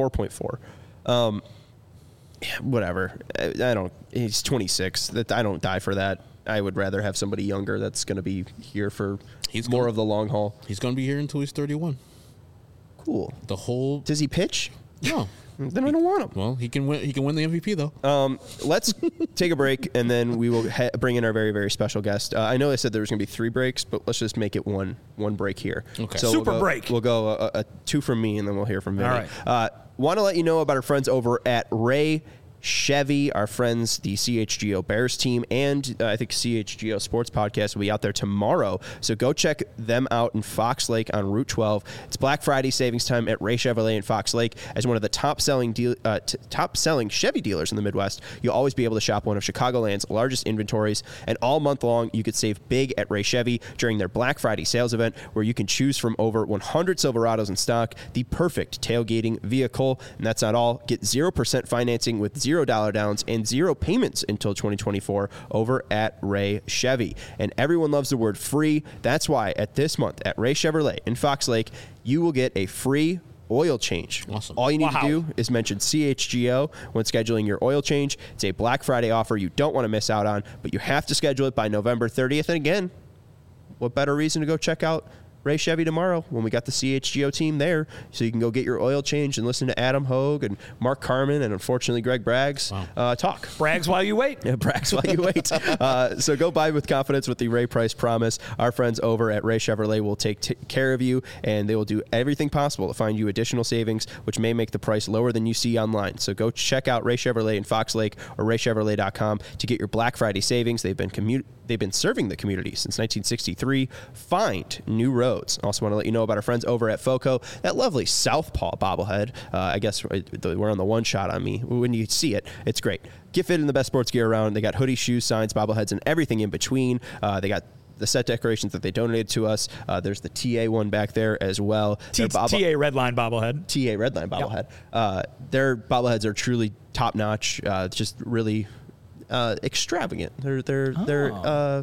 4.4. Whatever. I don't. He's 26. That I don't die for that. I would rather have somebody younger that's going to be here for more of the long haul. He's going to be here until he's 31. Cool. Does he pitch? No. Then I don't want him. Well, he can win. He can win the MVP though. Let's take a break, and then we will bring in our very, very special guest. I know I said there was going to be 3 breaks, but let's just make it one break here. Okay. So Super break. We'll go a 2 from me, and then we'll hear from Vinny. All right. Want to let you know about our friends over at Ray Chevy, our friends, the CHGO Bears team, and I think CHGO Sports Podcast will be out there tomorrow. So go check them out in Fox Lake on Route 12. It's Black Friday savings time at Ray Chevrolet in Fox Lake. As one of the top selling Chevy dealers in the Midwest, you'll always be able to shop one of Chicagoland's largest inventories. And all month long, you could save big at Ray Chevy during their Black Friday sales event, where you can choose from over 100 Silverados in stock, the perfect tailgating vehicle. And that's not all. Get 0% financing with $0 downs and 0 payments until 2024 over at Ray Chevy. And everyone loves the word free. That's why at this month at Ray Chevrolet in Fox Lake, you will get a free oil change. Awesome. All you need to do is mention CHGO when scheduling your oil change. It's a Black Friday offer you don't want to miss out on, but you have to schedule it by November 30th. And again, what better reason to go check out Ray Chevy tomorrow when we got the CHGO team there, so you can go get your oil change and listen to Adam Hogue and Mark Carman and unfortunately Greg Braggs talk. Brags while you wait. Yeah, brags while you wait. So go buy with confidence with the Ray Price promise. Our friends over at Ray Chevrolet will take care of you, and they will do everything possible to find you additional savings, which may make the price lower than you see online. So go check out Ray Chevrolet in Fox Lake or raychevrolet.com to get your Black Friday savings. They've been serving the community since 1963. Find new roads. Also want to let you know about our friends over at FOCO. That lovely Southpaw bobblehead. I guess we're on the one shot on me. When you see it, it's great. Get fit in the best sports gear around. They got hoodies, shoes, signs, bobbleheads, and everything in between. They got the set decorations that they donated to us. There's the TA one back there as well. TA Redline bobblehead. TA Redline bobblehead. Their bobbleheads are truly top notch. Just really extravagant. They're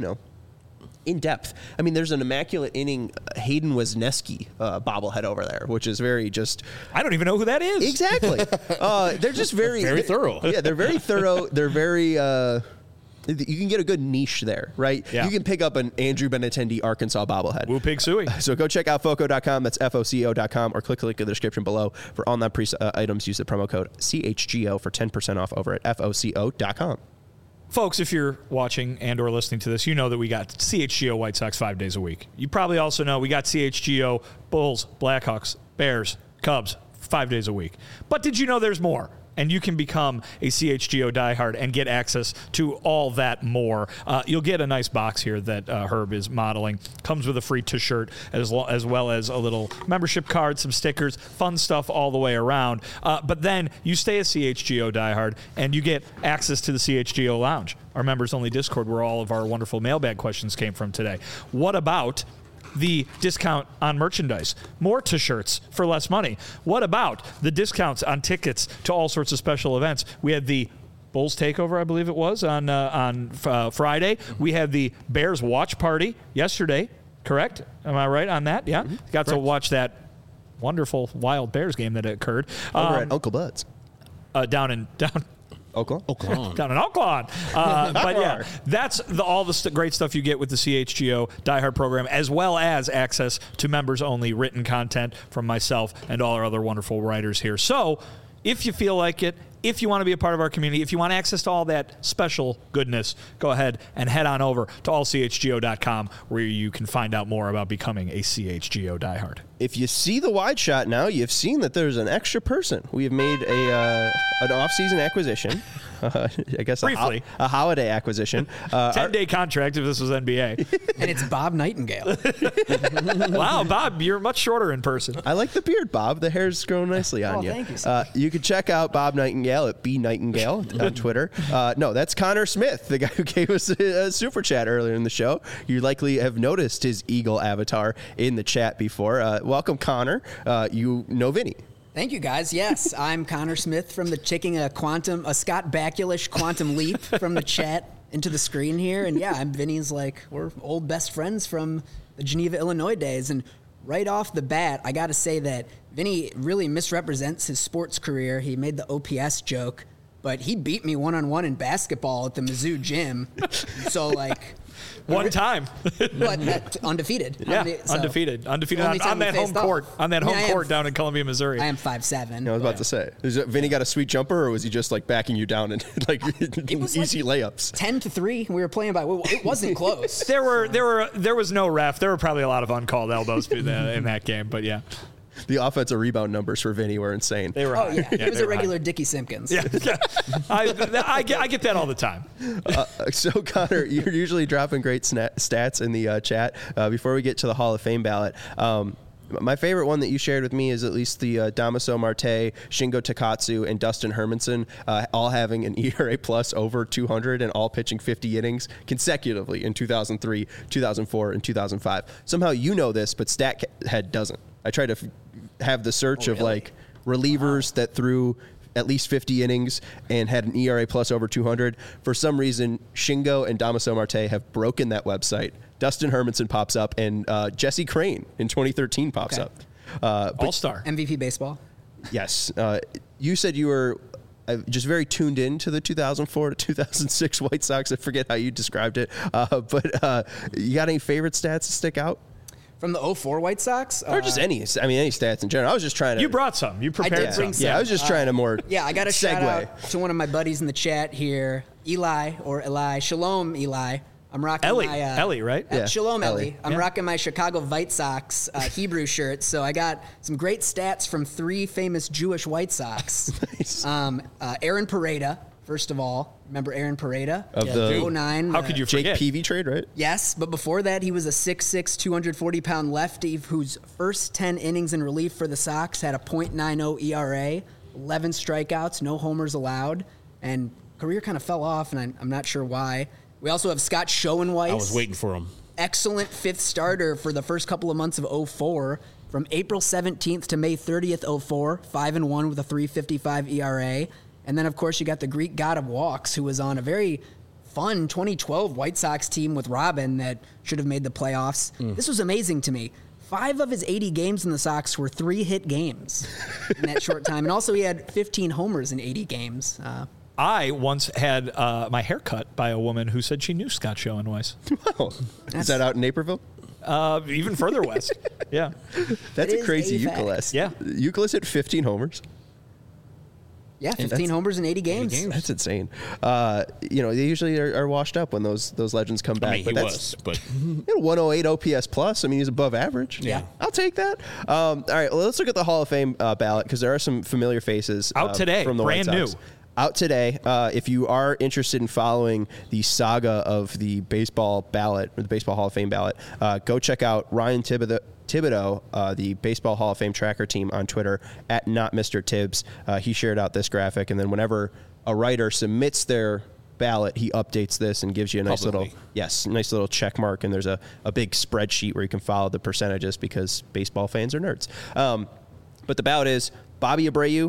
in depth. I mean, there's an immaculate inning Hayden Wesneski bobblehead over there, which is very just. I don't even know who that is. Exactly. They're just very thorough. Yeah, they're very thorough. They're very. You can get a good niche there, right? Yeah. You can pick up an Andrew Benintendi Arkansas bobblehead. Woo Pig Suey. So go check out FOCO.com. That's FOCO.com, or click the link in the description below for all non-pre items. Use the promo code CHGO for 10% off over at FOCO.com. Folks, if you're watching and or listening to this, you know that we got CHGO White Sox 5 days a week. You probably also know we got CHGO Bulls, Blackhawks, Bears, Cubs 5 days a week. But did you know there's more? And you can become a CHGO diehard and get access to all that more. You'll get a nice box here that Herb is modeling. Comes with a free t-shirt as well as a little membership card, some stickers, fun stuff all the way around. But then you stay a CHGO diehard and you get access to the CHGO Lounge, our members-only Discord where all of our wonderful mailbag questions came from today. What about the discount on merchandise, more t-shirts for less money? What about the discounts on tickets to all sorts of special events? We had the Bulls Takeover, I believe it was, on Friday. We had the Bears Watch Party yesterday, correct? Am I right on that? Yeah. Mm-hmm. Got to watch that wonderful Wild Bears game that occurred. Over at Uncle Bud's. Down Oakland. Down in Oakland. But yeah, that's all the great stuff you get with the CHGO Die Hard program, as well as access to members-only written content from myself and all our other wonderful writers here. So if you feel like it, if you want to be a part of our community, if you want access to all that special goodness, go ahead and head on over to allchgo.com where you can find out more about becoming a CHGO diehard. If you see the wide shot now, you've seen that there's an extra person. We have made an off-season acquisition. I guess Briefly. a holiday acquisition. 10-day contract if this was NBA. And it's Bob Nightingale. Wow, Bob, you're much shorter in person. I like the beard, Bob. The hair's growing nicely on you. Thank you, sir. You can check out Bob Nightingale at bnightingale on Twitter. No, that's Connor Smith, the guy who gave us a super chat earlier in the show. You likely have noticed his eagle avatar in the chat before. Welcome, Connor. You know Vinny. Thank you, guys. Yes, I'm Connor Smith from taking a Scott Bakula-ish quantum leap from the chat into the screen here. And yeah, I'm Vinny's, we're old best friends from the Geneva, Illinois days. And right off the bat, I got to say that Vinny really misrepresents his sports career. He made the OPS joke, but he beat me one-on-one in basketball at the Mizzou gym. So, One time. But undefeated. Yeah, undefeated. Undefeated on that home court. On that home court down in Columbia, Missouri. I am 5'7". I was about to say, Vinny got a sweet jumper, or was he just backing you down and easy layups? 10-3. We were playing by. It wasn't close. There was no ref. There were probably a lot of uncalled elbows in that game, but yeah. The offensive rebound numbers for Vinny were insane. They were high. Yeah. It was a regular Dickie Simpkins. Yeah. I get that all the time. So, Connor, you're usually dropping great stats in the chat. Before we get to the Hall of Fame ballot, my favorite one that you shared with me is at least the Damaso Marte, Shingo Takatsu, and Dustin Hermanson all having an ERA plus over 200 and all pitching 50 innings consecutively in 2003, 2004, and 2005. Somehow you know this, but StatHead doesn't. I try to have the search of relievers that threw at least 50 innings and had an ERA plus over 200. For some reason, Shingo and Damaso Marte have broken that website. Dustin Hermanson pops up, and Jesse Crane in 2013 pops up. All-star. MVP baseball. Yes. You said you were just very tuned in to the 2004 to 2006 White Sox. I forget how you described it. But you got any favorite stats to stick out? From the 04 White Sox? Or just any stats in general. I was just trying to... You brought some. You prepared some. Yeah, I was just trying to more I got a segue. shout out to one of my buddies in the chat here, Eli. Shalom, Eli. I'm rocking Ellie, right? Yeah. Shalom, Ellie. I'm Yeah. rocking my Chicago White Sox Hebrew shirt. So I got some great stats from 3 famous Jewish White Sox. Nice. Aaron Pareda, first of all. Remember Aaron Pareda? Of the 09. How could you Jake forget? Peavy trade, right? Yes, but before that, he was a 6'6", 240-pound lefty whose first 10 innings in relief for the Sox had a .90 ERA, 11 strikeouts, no homers allowed, and career kind of fell off, and I'm not sure why. We also have Scott Schoenweiss. I was waiting for him. Excellent 5th starter for the first couple of months of 04. From April 17th to May 30th, 04, 5-1 with a 3.55 ERA. And then, of course, you got the Greek god of walks, who was on a very fun 2012 White Sox team with Robin that should have made the playoffs. This was amazing to me. 5 of his 80 games in the Sox were 3-hit games in that short time. And also he had 15 homers in 80 games. I once had my hair cut by a woman who said she knew Scott Schoenweiss. Wow. Is that out in Naperville? Even further west. Yeah. That's It a is crazy a fact. Euclid. Yeah. Euclid hit 15 homers. Yeah, 15 homers in 80 games. That's insane. They usually are washed up when those legends come back. I mean, he was, but 108 OPS plus. I mean, he's above average. Yeah. I'll take that. All right, well, let's look at the Hall of Fame ballot because there are some familiar faces Out today, from the brand White Sox. new. Out today. If you are interested in following the saga of the baseball ballot, or the Baseball Hall of Fame ballot, go check out Ryan Thibodeau, the Baseball Hall of Fame tracker team on Twitter at not Mr. Tibbs. He shared out this graphic, and then whenever a writer submits their ballot, he updates this and gives you a nice little check mark, and there's a big spreadsheet where you can follow the percentages because baseball fans are nerds. But the ballot is Bobby Abreu,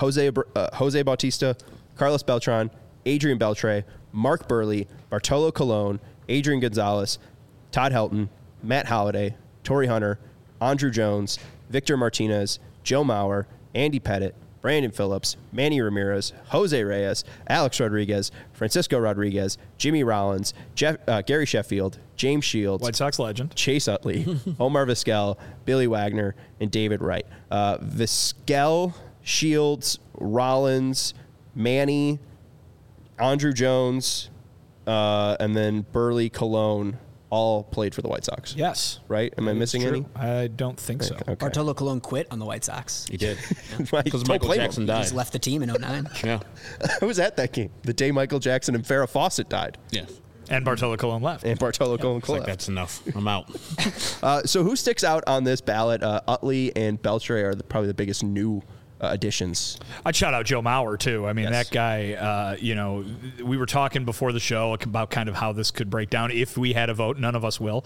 Jose Bautista, Carlos Beltran, Adrian Beltre, Mark Burley, Bartolo Colon, Adrian Gonzalez, Todd Helton, Matt Holliday, Torrey Hunter, Andrew Jones, Victor Martinez, Joe Mauer, Andy Pettit, Brandon Phillips, Manny Ramirez, Jose Reyes, Alex Rodriguez, Francisco Rodriguez, Jimmy Rollins, Gary Sheffield, James Shields, White Sox legend. Chase Utley, Omar Vizquel, Billy Wagner, and David Wright. Vizquel Shields, Rollins, Manny, Andrew Jones, and then Burley, Colon all played for the White Sox. Yes. Right? Am I missing any? I don't think so. Okay. Bartolo Colon quit on the White Sox. He did. Right. Because Don't Michael blame him. Jackson He died. just left the team in 09. Yeah. I was at that game, the day Michael Jackson and Farrah Fawcett died, Yeah. And Bartolo Colon left. and Bartolo Colon It's like, left. that's enough. I'm out. So who sticks out on this ballot? Utley and Beltre are probably the biggest new additions. I'd shout out Joe Mauer, too. I mean, Yes. that guy, we were talking before the show about kind of how this could break down if we had a vote. None of us will.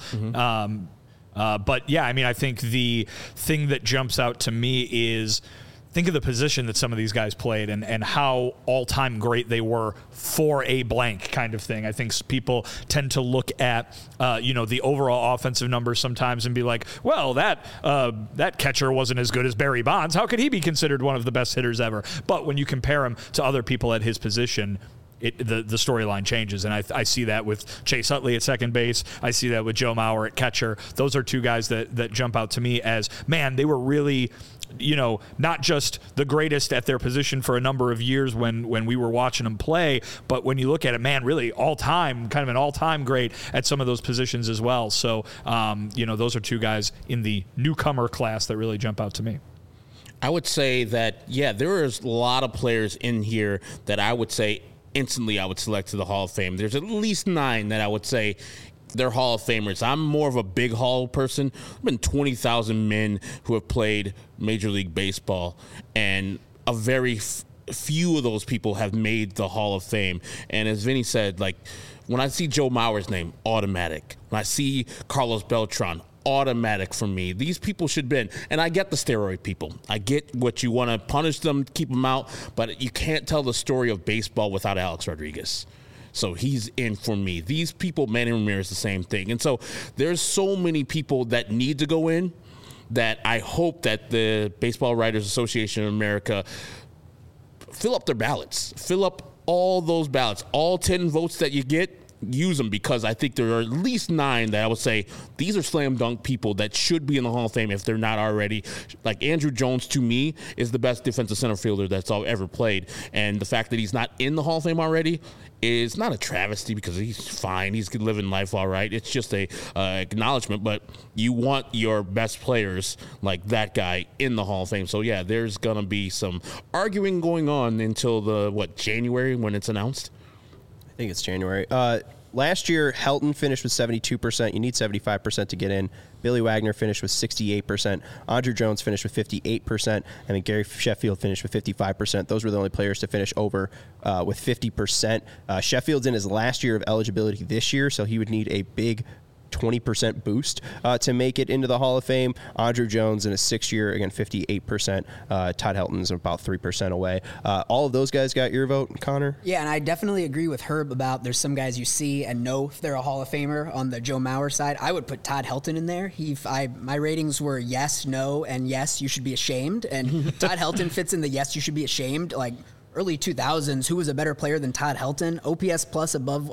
But, yeah, I mean, I think the thing that jumps out to me is think of the position that some of these guys played and how all-time great they were for a blank kind of thing. I think people tend to look at, the overall offensive numbers sometimes and be like, well, that catcher wasn't as good as Barry Bonds. How could he be considered one of the best hitters ever? But when you compare him to other people at his position, the storyline changes, and I see that with Chase Utley at second base. I see that with Joe Mauer at catcher. Those are two guys that jump out to me as, man, they were really, not just the greatest at their position for a number of years when we were watching them play, but when you look at it, man, really all-time, kind of an all-time great at some of those positions as well. So, those are two guys in the newcomer class that really jump out to me. I would say that, yeah, there is a lot of players in here that I would say instantly I would select to the Hall of Fame. There's at least 9 that I would say they're Hall of Famers. I'm more of a big Hall person. There's been 20,000 men who have played Major League Baseball, and a very few of those people have made the Hall of Fame. And as Vinny said, like, when I see Joe Mauer's name, automatic. When I see Carlos Beltran, automatic for me. These people should be in. And I get the steroid people. I get what you want to punish them, keep them out, but you can't tell the story of baseball without Alex Rodriguez. So he's in for me. These people, Manny Ramirez, the same thing. And so there's so many people that need to go in that I hope that the Baseball Writers Association of America fill up their ballots. Fill up all those ballots. All 10 votes that you get, use them, because I think there are at least 9 that I would say these are slam dunk people that should be in the Hall of Fame if they're not already. Like Andrew Jones, to me, is the best defensive center fielder that's ever played. And the fact that he's not in the Hall of Fame already is not a travesty, because he's fine. He's living life all right. It's just a acknowledgement. But you want your best players like that guy in the Hall of Fame. So, yeah, there's going to be some arguing going on until January when it's announced? I think it's January. Last year, Helton finished with 72%. You need 75% to get in. Billy Wagner finished with 68%. Andrew Jones finished with 58%. And then Gary Sheffield finished with 55%. Those were the only players to finish over with 50%. Sheffield's in his last year of eligibility this year, so he would need a big 20% boost to make it into the Hall of Fame. Andrew Jones in his 6th year, again, 58%. Todd Helton's about 3% away. All of those guys got your vote, Connor? Yeah, and I definitely agree with Herb about there's some guys you see and know if they're a Hall of Famer. On the Joe Mauer side, I would put Todd Helton in there. My ratings were yes, no, and yes, you should be ashamed. And Todd Helton fits in the yes, you should be ashamed. Like early 2000s, who was a better player than Todd Helton? OPS plus above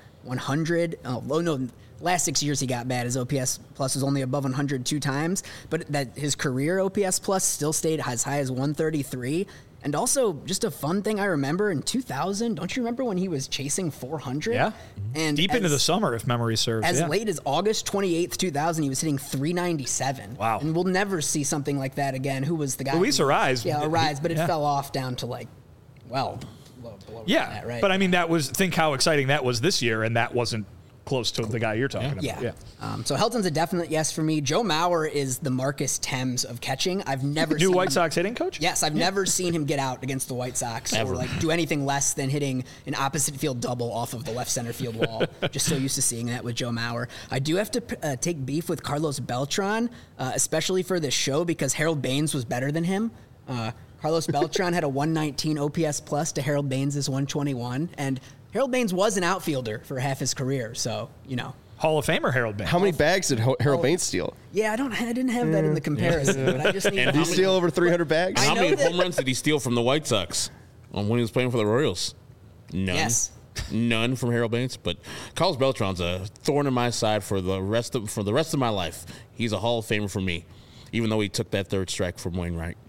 100. Oh, no. Last 6 years he got bad. His OPS plus was only above 100 2 times, but that his career OPS plus still stayed as high as 133. And also, just a fun thing I remember in 2000. Don't you remember when he was chasing 400? Yeah, and deep into the summer, if memory serves. As late as August 28th, 2000, he was hitting 397. Wow! And we'll never see something like that again. Who was the guy? Luis Arraez. Yeah, Arraez, but it fell off down to below that, right? But I mean, think how exciting that was this year, and that wasn't close to the guy you're talking about. Yeah. So Helton's a definite yes for me. Joe Mauer is the Marcus Thames of catching. I've never seen White Sox hitting coach? Yes, I've never seen him get out against the White Sox or do anything less than hitting an opposite field double off of the left center field wall. Just so used to seeing that with Joe Mauer. I do have to take beef with Carlos Beltran, especially for this show, because Harold Baines was better than him. Carlos Beltran had a 119 OPS plus to Harold Baines' 121, and Harold Baines was an outfielder for half his career, so, Hall of Famer Harold Baines. How many bags did Harold Baines steal? Yeah, I didn't have that in the comparison, but I just need Did he steal over 300 bags? How many home runs did he steal from the White Sox when he was playing for the Royals? None. Yes. None from Harold Baines, but Carlos Beltran's a thorn in my side for the rest of my life. He's a Hall of Famer for me, even though he took that third strike from Wainwright.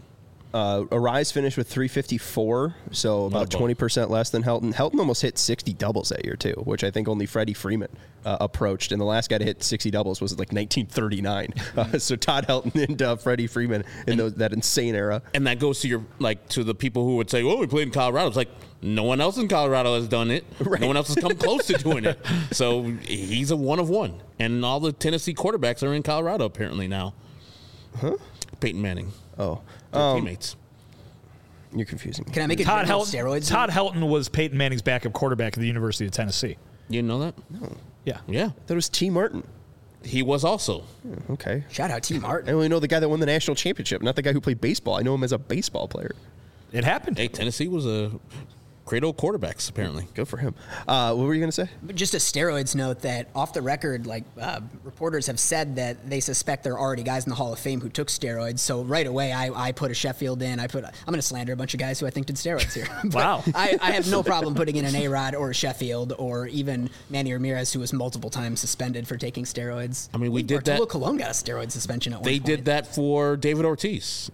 Arise finished with 354, so about 20% less than Helton. Helton almost hit 60 doubles that year, too, which I think only Freddie Freeman approached. And the last guy to hit 60 doubles was like 1939. So Todd Helton and Freddie Freeman in that insane era. And that goes to your to the people who would say, "Oh, we played in Colorado." It's like no one else in Colorado has done it. Right. No one else has come close to doing it. So he's a one of one. And all the Tennessee quarterbacks are in Colorado apparently now. Huh? Peyton Manning. Oh. Teammates. You're confusing me. Can I make a Todd steroids? Todd Helton was Peyton Manning's backup quarterback at the University of Tennessee. You didn't know that? No. Yeah. Yeah. That was T. Martin. He was also. Okay. Shout out T. Martin. I only know the guy that won the national championship, not the guy who played baseball. I know him as a baseball player. It happened. Hey, Tennessee was a great old quarterbacks, apparently. Good for him. What were you going to say? Just a steroids note that off the record, reporters have said that they suspect there are already guys in the Hall of Fame who took steroids. So right away, I put a Sheffield in. I'm going to slander a bunch of guys who I think did steroids here. Wow. I have no problem putting in an A-Rod or a Sheffield or even Manny Ramirez, who was multiple times suspended for taking steroids. I mean, we did that. Arturo Colon got a steroid suspension at one They point. did that for David Ortiz.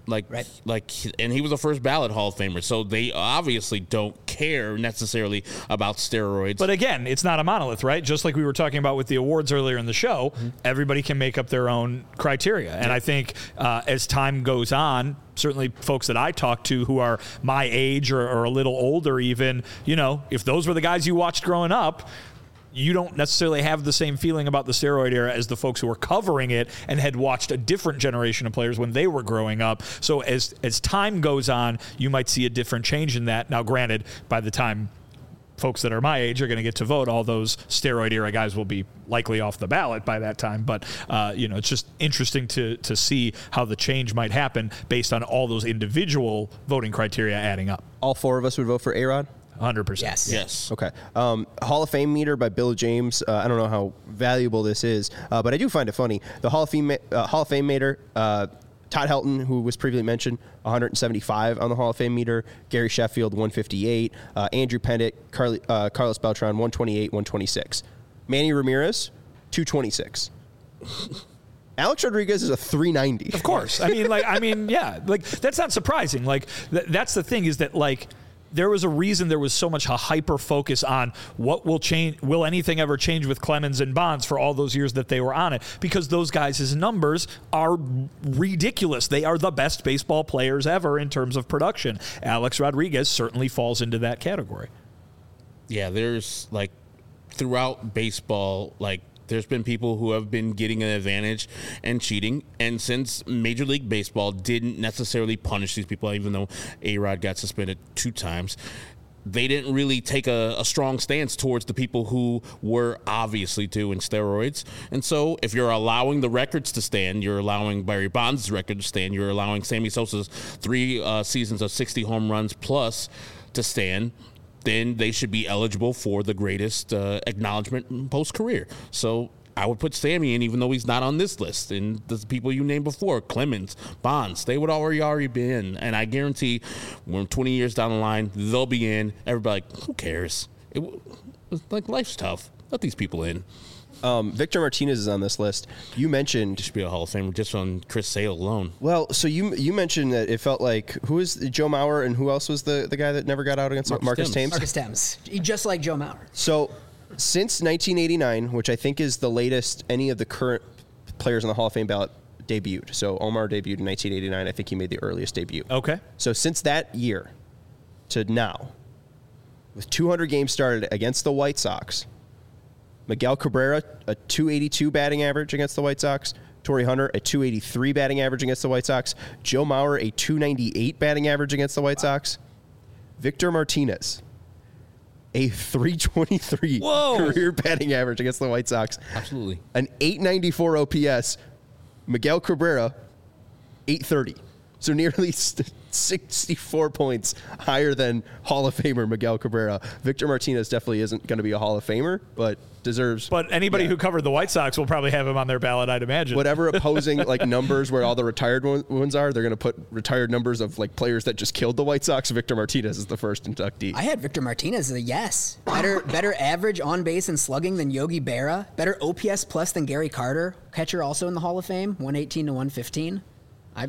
And he was a first ballot Hall of Famer, so they obviously don't care necessarily about steroids. But again, it's not a monolith, right? Just like we were talking about with the awards earlier in the show, everybody can make up their own criteria. And I think as time goes on, certainly folks that I talk to who are my age or a little older even, if those were the guys you watched growing up, you don't necessarily have the same feeling about the steroid era as the folks who were covering it and had watched a different generation of players when they were growing up. So as time goes on, you might see a different change in that. Now, granted, by the time folks that are my age are going to get to vote, all those steroid era guys will be likely off the ballot by that time. But, it's just interesting to see how the change might happen based on all those individual voting criteria adding up. All four of us would vote for A-Rod? 100%. Yes. Okay. Hall of Fame meter by Bill James. I don't know how valuable this is, but I do find it funny. The Hall of Fame meter, Todd Helton, who was previously mentioned, 175 on the Hall of Fame meter. Gary Sheffield, 158. Andrew Pettit, Carlos Beltran, 128, 126. Manny Ramirez, 226. Alex Rodriguez is a 390. Of course. Yeah. That's not surprising. That's the thing is that, there was a reason there was so much a hyper focus on what will change. Will anything ever change with Clemens and Bonds for all those years that they were on it? Because those guys' numbers are ridiculous. They are the best baseball players ever in terms of production. Alex Rodriguez certainly falls into that category. Yeah, there's throughout baseball, there's been people who have been getting an advantage and cheating. And since Major League Baseball didn't necessarily punish these people, even though A-Rod got suspended 2 times, they didn't really take a strong stance towards the people who were obviously doing steroids. And so if you're allowing the records to stand, you're allowing Barry Bonds' record to stand, you're allowing Sammy Sosa's 3 seasons of 60 home runs plus to stand, then they should be eligible for the greatest acknowledgement post-career. So I would put Sammy in, even though he's not on this list. And the people you named before, Clemens, Bonds, they would already be in. And I guarantee when 20 years down the line, they'll be in. Everybody who cares? Life's tough. Let these people in. Victor Martinez is on this list. You mentioned should be a Hall of Famer just on Chris Sale alone. Well, so you mentioned that it felt like who is Joe Mauer and who else was the guy that never got out against Marcus Thames? Marcus Thames, just like Joe Mauer. So since 1989, which I think is the latest any of the current players on the Hall of Fame ballot debuted. So Omar debuted in 1989. I think he made the earliest debut. Okay. So since that year to now, with 200 games started against the White Sox, Miguel Cabrera, a 282 batting average against the White Sox. Torrey Hunter, a 283 batting average against the White Sox. Joe Mauer, a 298 batting average against the White Sox. Victor Martinez, a 323 career batting average against the White Sox. Absolutely. An 894 OPS. Miguel Cabrera, 830. So nearly 64 points higher than Hall of Famer Miguel Cabrera. Victor Martinez definitely isn't going to be a Hall of Famer, but deserves. But anybody who covered the White Sox will probably have him on their ballot, I'd imagine. Whatever opposing numbers where all the retired ones are, they're going to put retired numbers of players that just killed the White Sox. Victor Martinez is the first inductee. I had Victor Martinez as a yes. Better average on base and slugging than Yogi Berra. Better OPS plus than Gary Carter. Catcher also in the Hall of Fame, 118 to 115.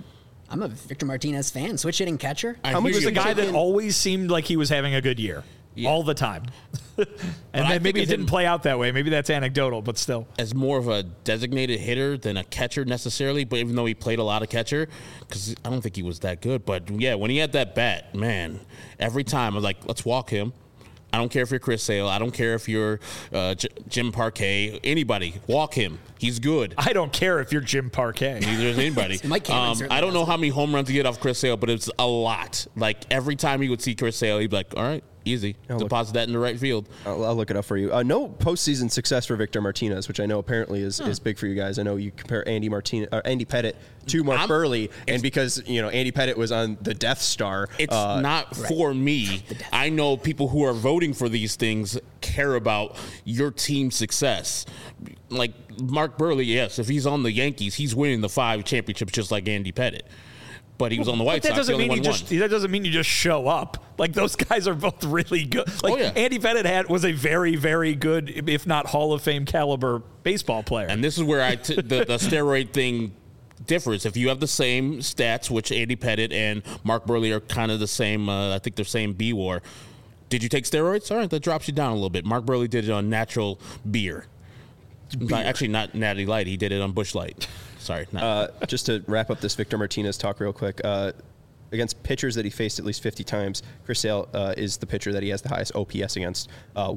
I'm a Victor Martinez fan. Switch hitting catcher. He was a guy that always seemed like he was having a good year. Yeah. All the time. And then maybe it didn't play out that way. Maybe that's anecdotal, but still. As more of a designated hitter than a catcher necessarily, but even though he played a lot of catcher, because I don't think he was that good. But, yeah, when he had that bat, man, every time I was like, let's walk him. I don't care if you're Chris Sale. I don't care if you're Jim Parquet. Anybody, walk him. He's good. I don't care if you're Jim Parquet. Neither is anybody. I don't know how many home runs he get off Chris Sale, but it's a lot. Like, every time he would see Chris Sale, he'd be like, all right, easy. Deposit that in the right field. I'll look it up for you. No postseason success for Victor Martinez, which I know apparently is big for you guys. I know you compare Andy Pettitte to Mark Buehrle, and because Andy Pettitte was on the Death Star. It's not for me. I know people who are voting for these things care about your team's success. Like Mark Buehrle, yes, if he's on the Yankees, he's winning the 5 championships just like Andy Pettitte. But he was on the White Sox. That doesn't mean you just show up. Like, those guys are both really good. Like, Andy Pettitte was a very, very good, if not Hall of Fame caliber baseball player. And this is where the steroid thing differs. If you have the same stats, which Andy Pettitte and Mark Buehrle are kind of the same, I think they're same B-WAR. Did you take steroids? All right, that drops you down a little bit. Mark Buehrle did it on natural beer. Actually, not Natty Light. He did it on Busch Light. Sorry. Just to wrap up this Victor Martinez talk real quick, against pitchers that he faced at least 50 times, Chris Sale is the pitcher that he has the highest OPS against,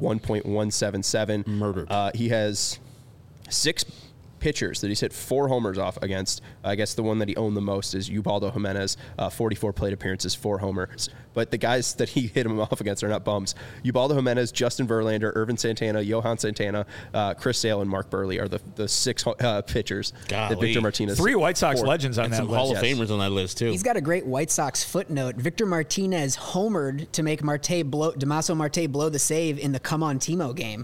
1.177. Murdered. He has 6 pitchers that he's hit 4 homers off against. I guess the one that he owned the most is Ubaldo Jimenez, 44 plate appearances, 4 homers. But the guys that he hit him off against are not bums. Ubaldo Jimenez, Justin Verlander, Irvin Santana, Johan Santana, Chris Sale, and Mark Buehrle are the 6 pitchers that Victor Martinez. 3 White Sox legends on that list. Some Hall of Famers on that list, too. He's got a great White Sox footnote. Victor Martinez homered to make Damaso Marte blow the save in the Come On Timo game.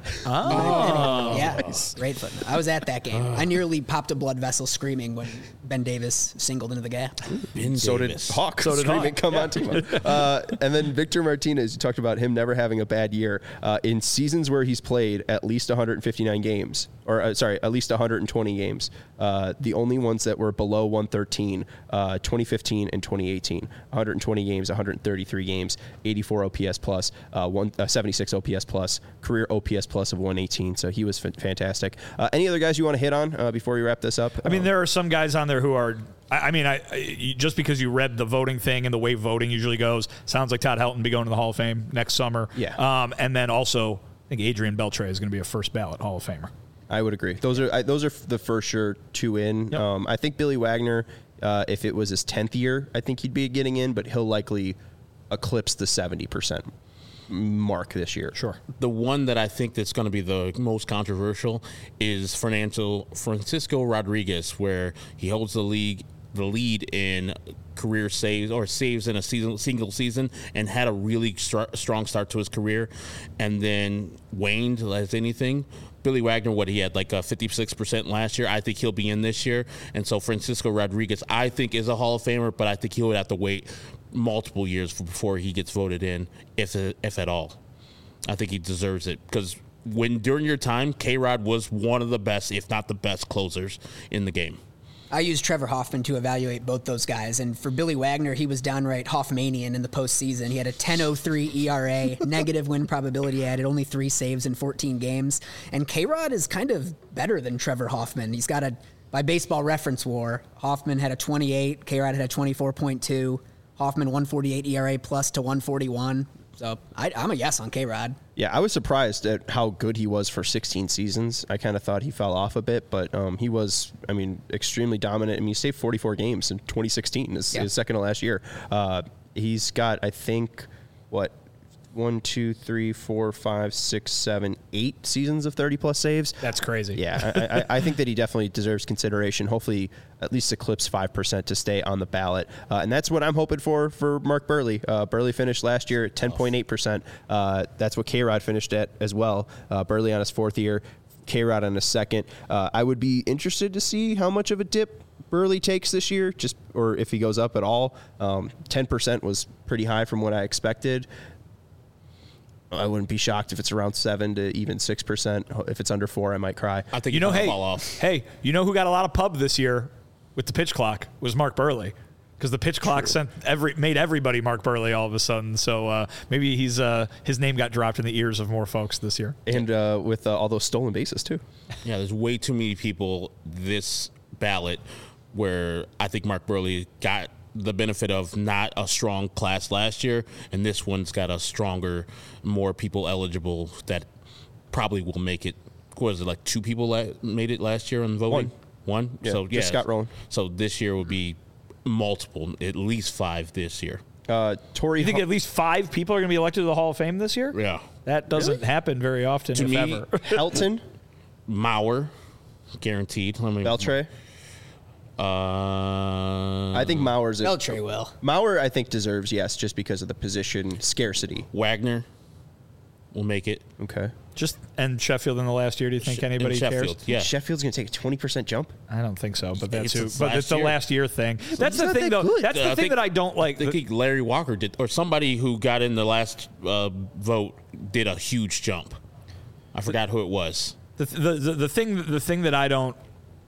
Oh. Yeah, nice. Great footnote. I was at that game. I nearly popped a blood vessel screaming when Ben Davis singled into the gap. So did Hawk. Come On Timo. And then Victor Martinez, you talked about him never having a bad year. In seasons where he's played at least 159 games, at least 120 games, the only ones that were below 113, 2015 and 2018. 120 games, 133 games, 84 OPS plus, 76 OPS plus, career OPS plus of 118. So he was fantastic. Any other guys you want to hit on before we wrap this up? I mean, there are some guys on there who are... just because you read the voting thing and the way voting usually goes, sounds like Todd Helton be going to the Hall of Fame next summer. Yeah. And then also, I think Adrian Beltre is going to be a first ballot Hall of Famer. I would agree. Those are the first sure 2 in. Yep. I think Billy Wagner, if it was his 10th year, I think he'd be getting in, but he'll likely eclipse the 70% mark this year. Sure. The one that I think that's going to be the most controversial is Francisco Rodriguez, where he holds the lead in career saves or saves in a single season and had a really strong start to his career and then waned as anything. Billy Wagner, he had like 56% last year. I think he'll be in this year. And so Francisco Rodriguez, I think, is a Hall of Famer, but I think he would have to wait multiple years before he gets voted in, if at all. I think he deserves it because during your time, K-Rod was one of the best, if not the best, closers in the game. I used Trevor Hoffman to evaluate both those guys. And for Billy Wagner, he was downright Hoffmanian in the postseason. He had a 10.03 ERA, negative win probability added, only 3 saves in 14 games. And K-Rod is kind of better than Trevor Hoffman. He's got by Baseball Reference WAR, Hoffman had a 28, K-Rod had a 24.2, Hoffman 148 ERA plus to 141. So I'm a yes on K-Rod. Yeah, I was surprised at how good he was for 16 seasons. I kind of thought he fell off a bit, but he was, extremely dominant. He saved 44 games in 2016, his second to last year. He's got, I think, 1, 2, 3, 4, 5, 6, 7, 8 seasons of 30-plus saves. That's crazy. Yeah, I think that he definitely deserves consideration. Hopefully, at least eclipse 5% to stay on the ballot. And that's what I'm hoping for Mark Buehrle. Buehrle finished last year at 10.8%. That's what K-Rod finished at as well. Buehrle on his 4th year, K-Rod on his 2nd. I would be interested to see how much of a dip Buehrle takes this year, or if he goes up at all. 10% was pretty high from what I expected. I wouldn't be shocked if it's around 7 to even 6%. If it's under 4, I might cry. I think fall off. Hey, you know who got a lot of pub this year with the pitch clock was Mark Buehrle. because the pitch clock made everybody Mark Burley all of a sudden. So maybe his name got dropped in the ears of more folks this year. And with all those stolen bases, too. Yeah, there's way too many people this ballot where I think Mark Burley got the benefit of not a strong class last year, and this one's got a stronger, more people eligible that probably will make it. What was it, like 2 people made it last year on voting? One? Yeah, So, yeah. just Scott Rowland. So this year would be multiple, at least 5 this year. Tori, You think at least 5 people are going to be elected to the Hall of Fame this year? Yeah. That doesn't happen very often, To if me, ever. Helton, Mauer, guaranteed. Beltre. I think Mauer's Beltre will. Mauer, I think, deserves yes, just because of the position scarcity. Wagner will make it. Okay. And Sheffield in the last year, do you think anybody Sheffield, cares? yeah. Sheffield's going to take a 20% jump. I don't think so, but that's It's but last it's the year. last year thing. That's the not thing, that though. good. That's the I thing think- that I don't like. I think Larry Walker did, or somebody who got in the last vote did a huge jump. I forgot who it was. The thing that I don't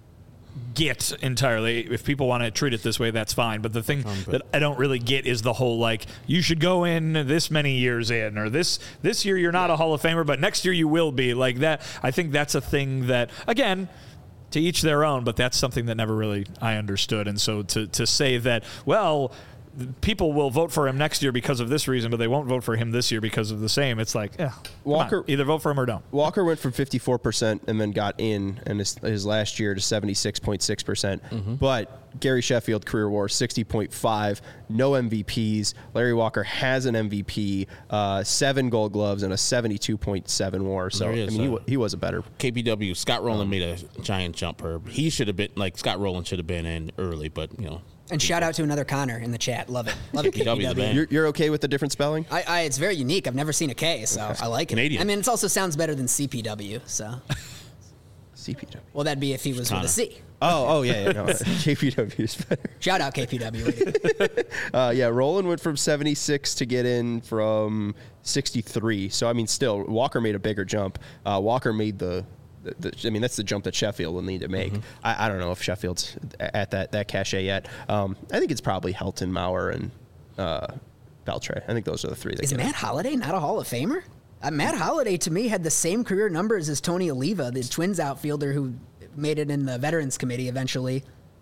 get entirely, if people want to treat it this way, that's fine, but the thing that I don't really get is the whole, like, you should go in this many years in, or this year you're not a Hall of Famer, but next year you will be. Like that, I think that's a thing that, again, to each their own, but that's something that never really I understood. And so to say that, well, people will vote for him next year because of this reason, but they won't vote for him this year because of the same. It's like, yeah, Walker- either vote for him or don't. Walker went from 54% and then got in his last year to 76.6%. But Gary Sheffield, career WAR 60.5, no MVPs. Larry Walker has an MVP, 7 Gold Gloves, and a 72.7 WAR. So, There I he is, mean, he was a better. KPW, Scott Rowland made a giant jump. He should have been, like, Scott Rowland should have been in early, but, you know. And shout out to another Connor in the chat. Love it. Love it, KPW, the KPW. man. You're okay with the different spelling? It's very unique. I've never seen a K, so I like it. Canadian. I mean, it also sounds better than CPW, so. CPW. Well, that'd be if he was Connor. with a C. Oh, yeah. No, KPW is better. Shout out KPW. Yeah, Roland went from 76 to get in from 63. So, I mean, still, Walker made a bigger jump. Walker made I mean, that's the jump that Sheffield will need to make. I don't know if Sheffield's at that cachet yet. I think it's probably Helton, Mauer, and Beltre. I think those are the 3 that Is get Matt Holliday not a Hall of Famer? Matt Holliday, to me, had the same career numbers as Tony Oliva, the Twins outfielder who made it in the Veterans Committee eventually.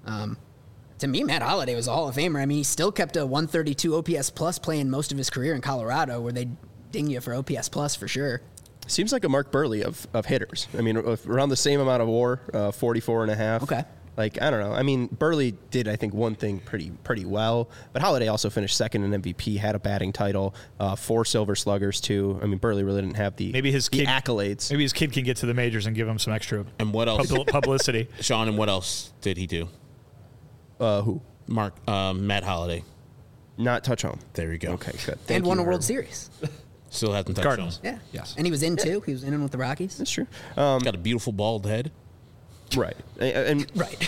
To me, Matt Holliday was a Hall of Famer. I mean, he still kept a 132 OPS plus playing most of his career in Colorado, where they ding you for OPS plus for sure. Seems like a Mark Burley of hitters. I mean, around the same amount of WAR, 44.5. Okay. Like, I don't know. I mean, Burley did, I think, one thing pretty well, but Holliday also finished second in MVP, had a batting title, 4 Silver Sluggers too. I mean, Burley really didn't have the accolades. Maybe his kid can get to the majors and give him some extra And what else? publicity. Sean, and what else did he do? Who? Matt Holliday. Not touch home. There you go. Okay, good. And won a Herb. World Series. Still hasn't touched Cardinals. on. Yeah. Yes. And he was in, too. He was in with the Rockies. That's true. Got a beautiful bald head. Right. And Right.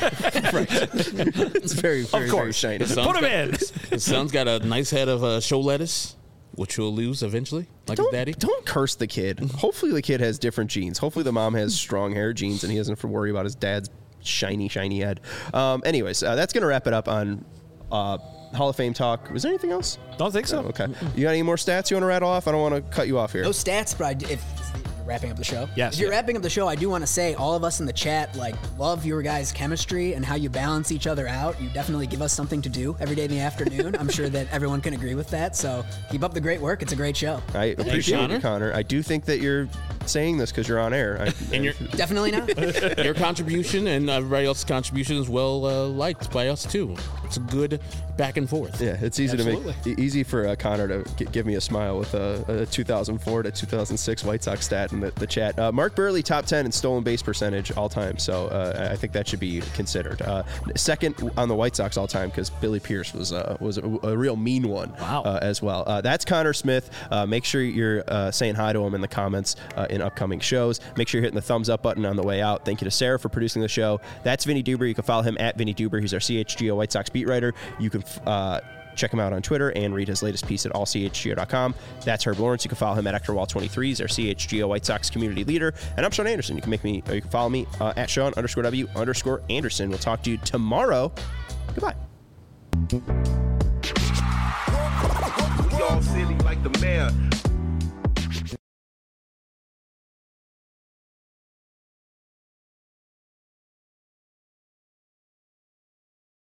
it's very, very shiny. His son's Put him in. His son's got a nice head of show lettuce, which he'll lose eventually, like his daddy. Don't curse the kid. Hopefully the kid has different genes. Hopefully the mom has strong hair genes and he doesn't have to worry about his dad's shiny head. Anyways, that's going to wrap it up on Hall of Fame talk. Was there anything else? Don't think so. Oh, okay. You got any more stats you want to rattle off? I don't want to cut you off here. No stats, but if you're wrapping up the show. Yes. If you're wrapping up the show, I do want to say all of us in the chat, love your guys' chemistry and how you balance each other out. You definitely give us something to do every day in the afternoon. I'm sure that everyone can agree with that. So keep up the great work. It's a great show. I appreciate Connor. it, Connor. I do think that you're saying this because you're on air. And Definitely not. your contribution and everybody else's contribution is well liked by us too. It's a good back and forth. yeah, it's easy easy for Connor to give me a smile with a 2004 to 2006 White Sox stat in the chat. Mark Burley, top 10 in stolen base percentage all time. So I think that should be considered. Second on the White Sox all time because Billy Pierce was a real mean one. Wow. As well. That's Connor Smith. Make sure you're saying hi to him in the comments in upcoming shows. Make sure you're hitting the thumbs up button on the way out. Thank you to Sarah for producing the show. That's Vinny Duber. You can follow him at Vinny Duber. He's our CHGO White Sox beat writer. You can check him out on Twitter and read his latest piece at allchgo.com. That's Herb Lawrence. You can follow him at EctorWall23. He's our CHGO White Sox community leader. And I'm Sean Anderson. You can follow me at Sean_W_Anderson. We'll talk to you tomorrow. Goodbye. We all silly like the mayor.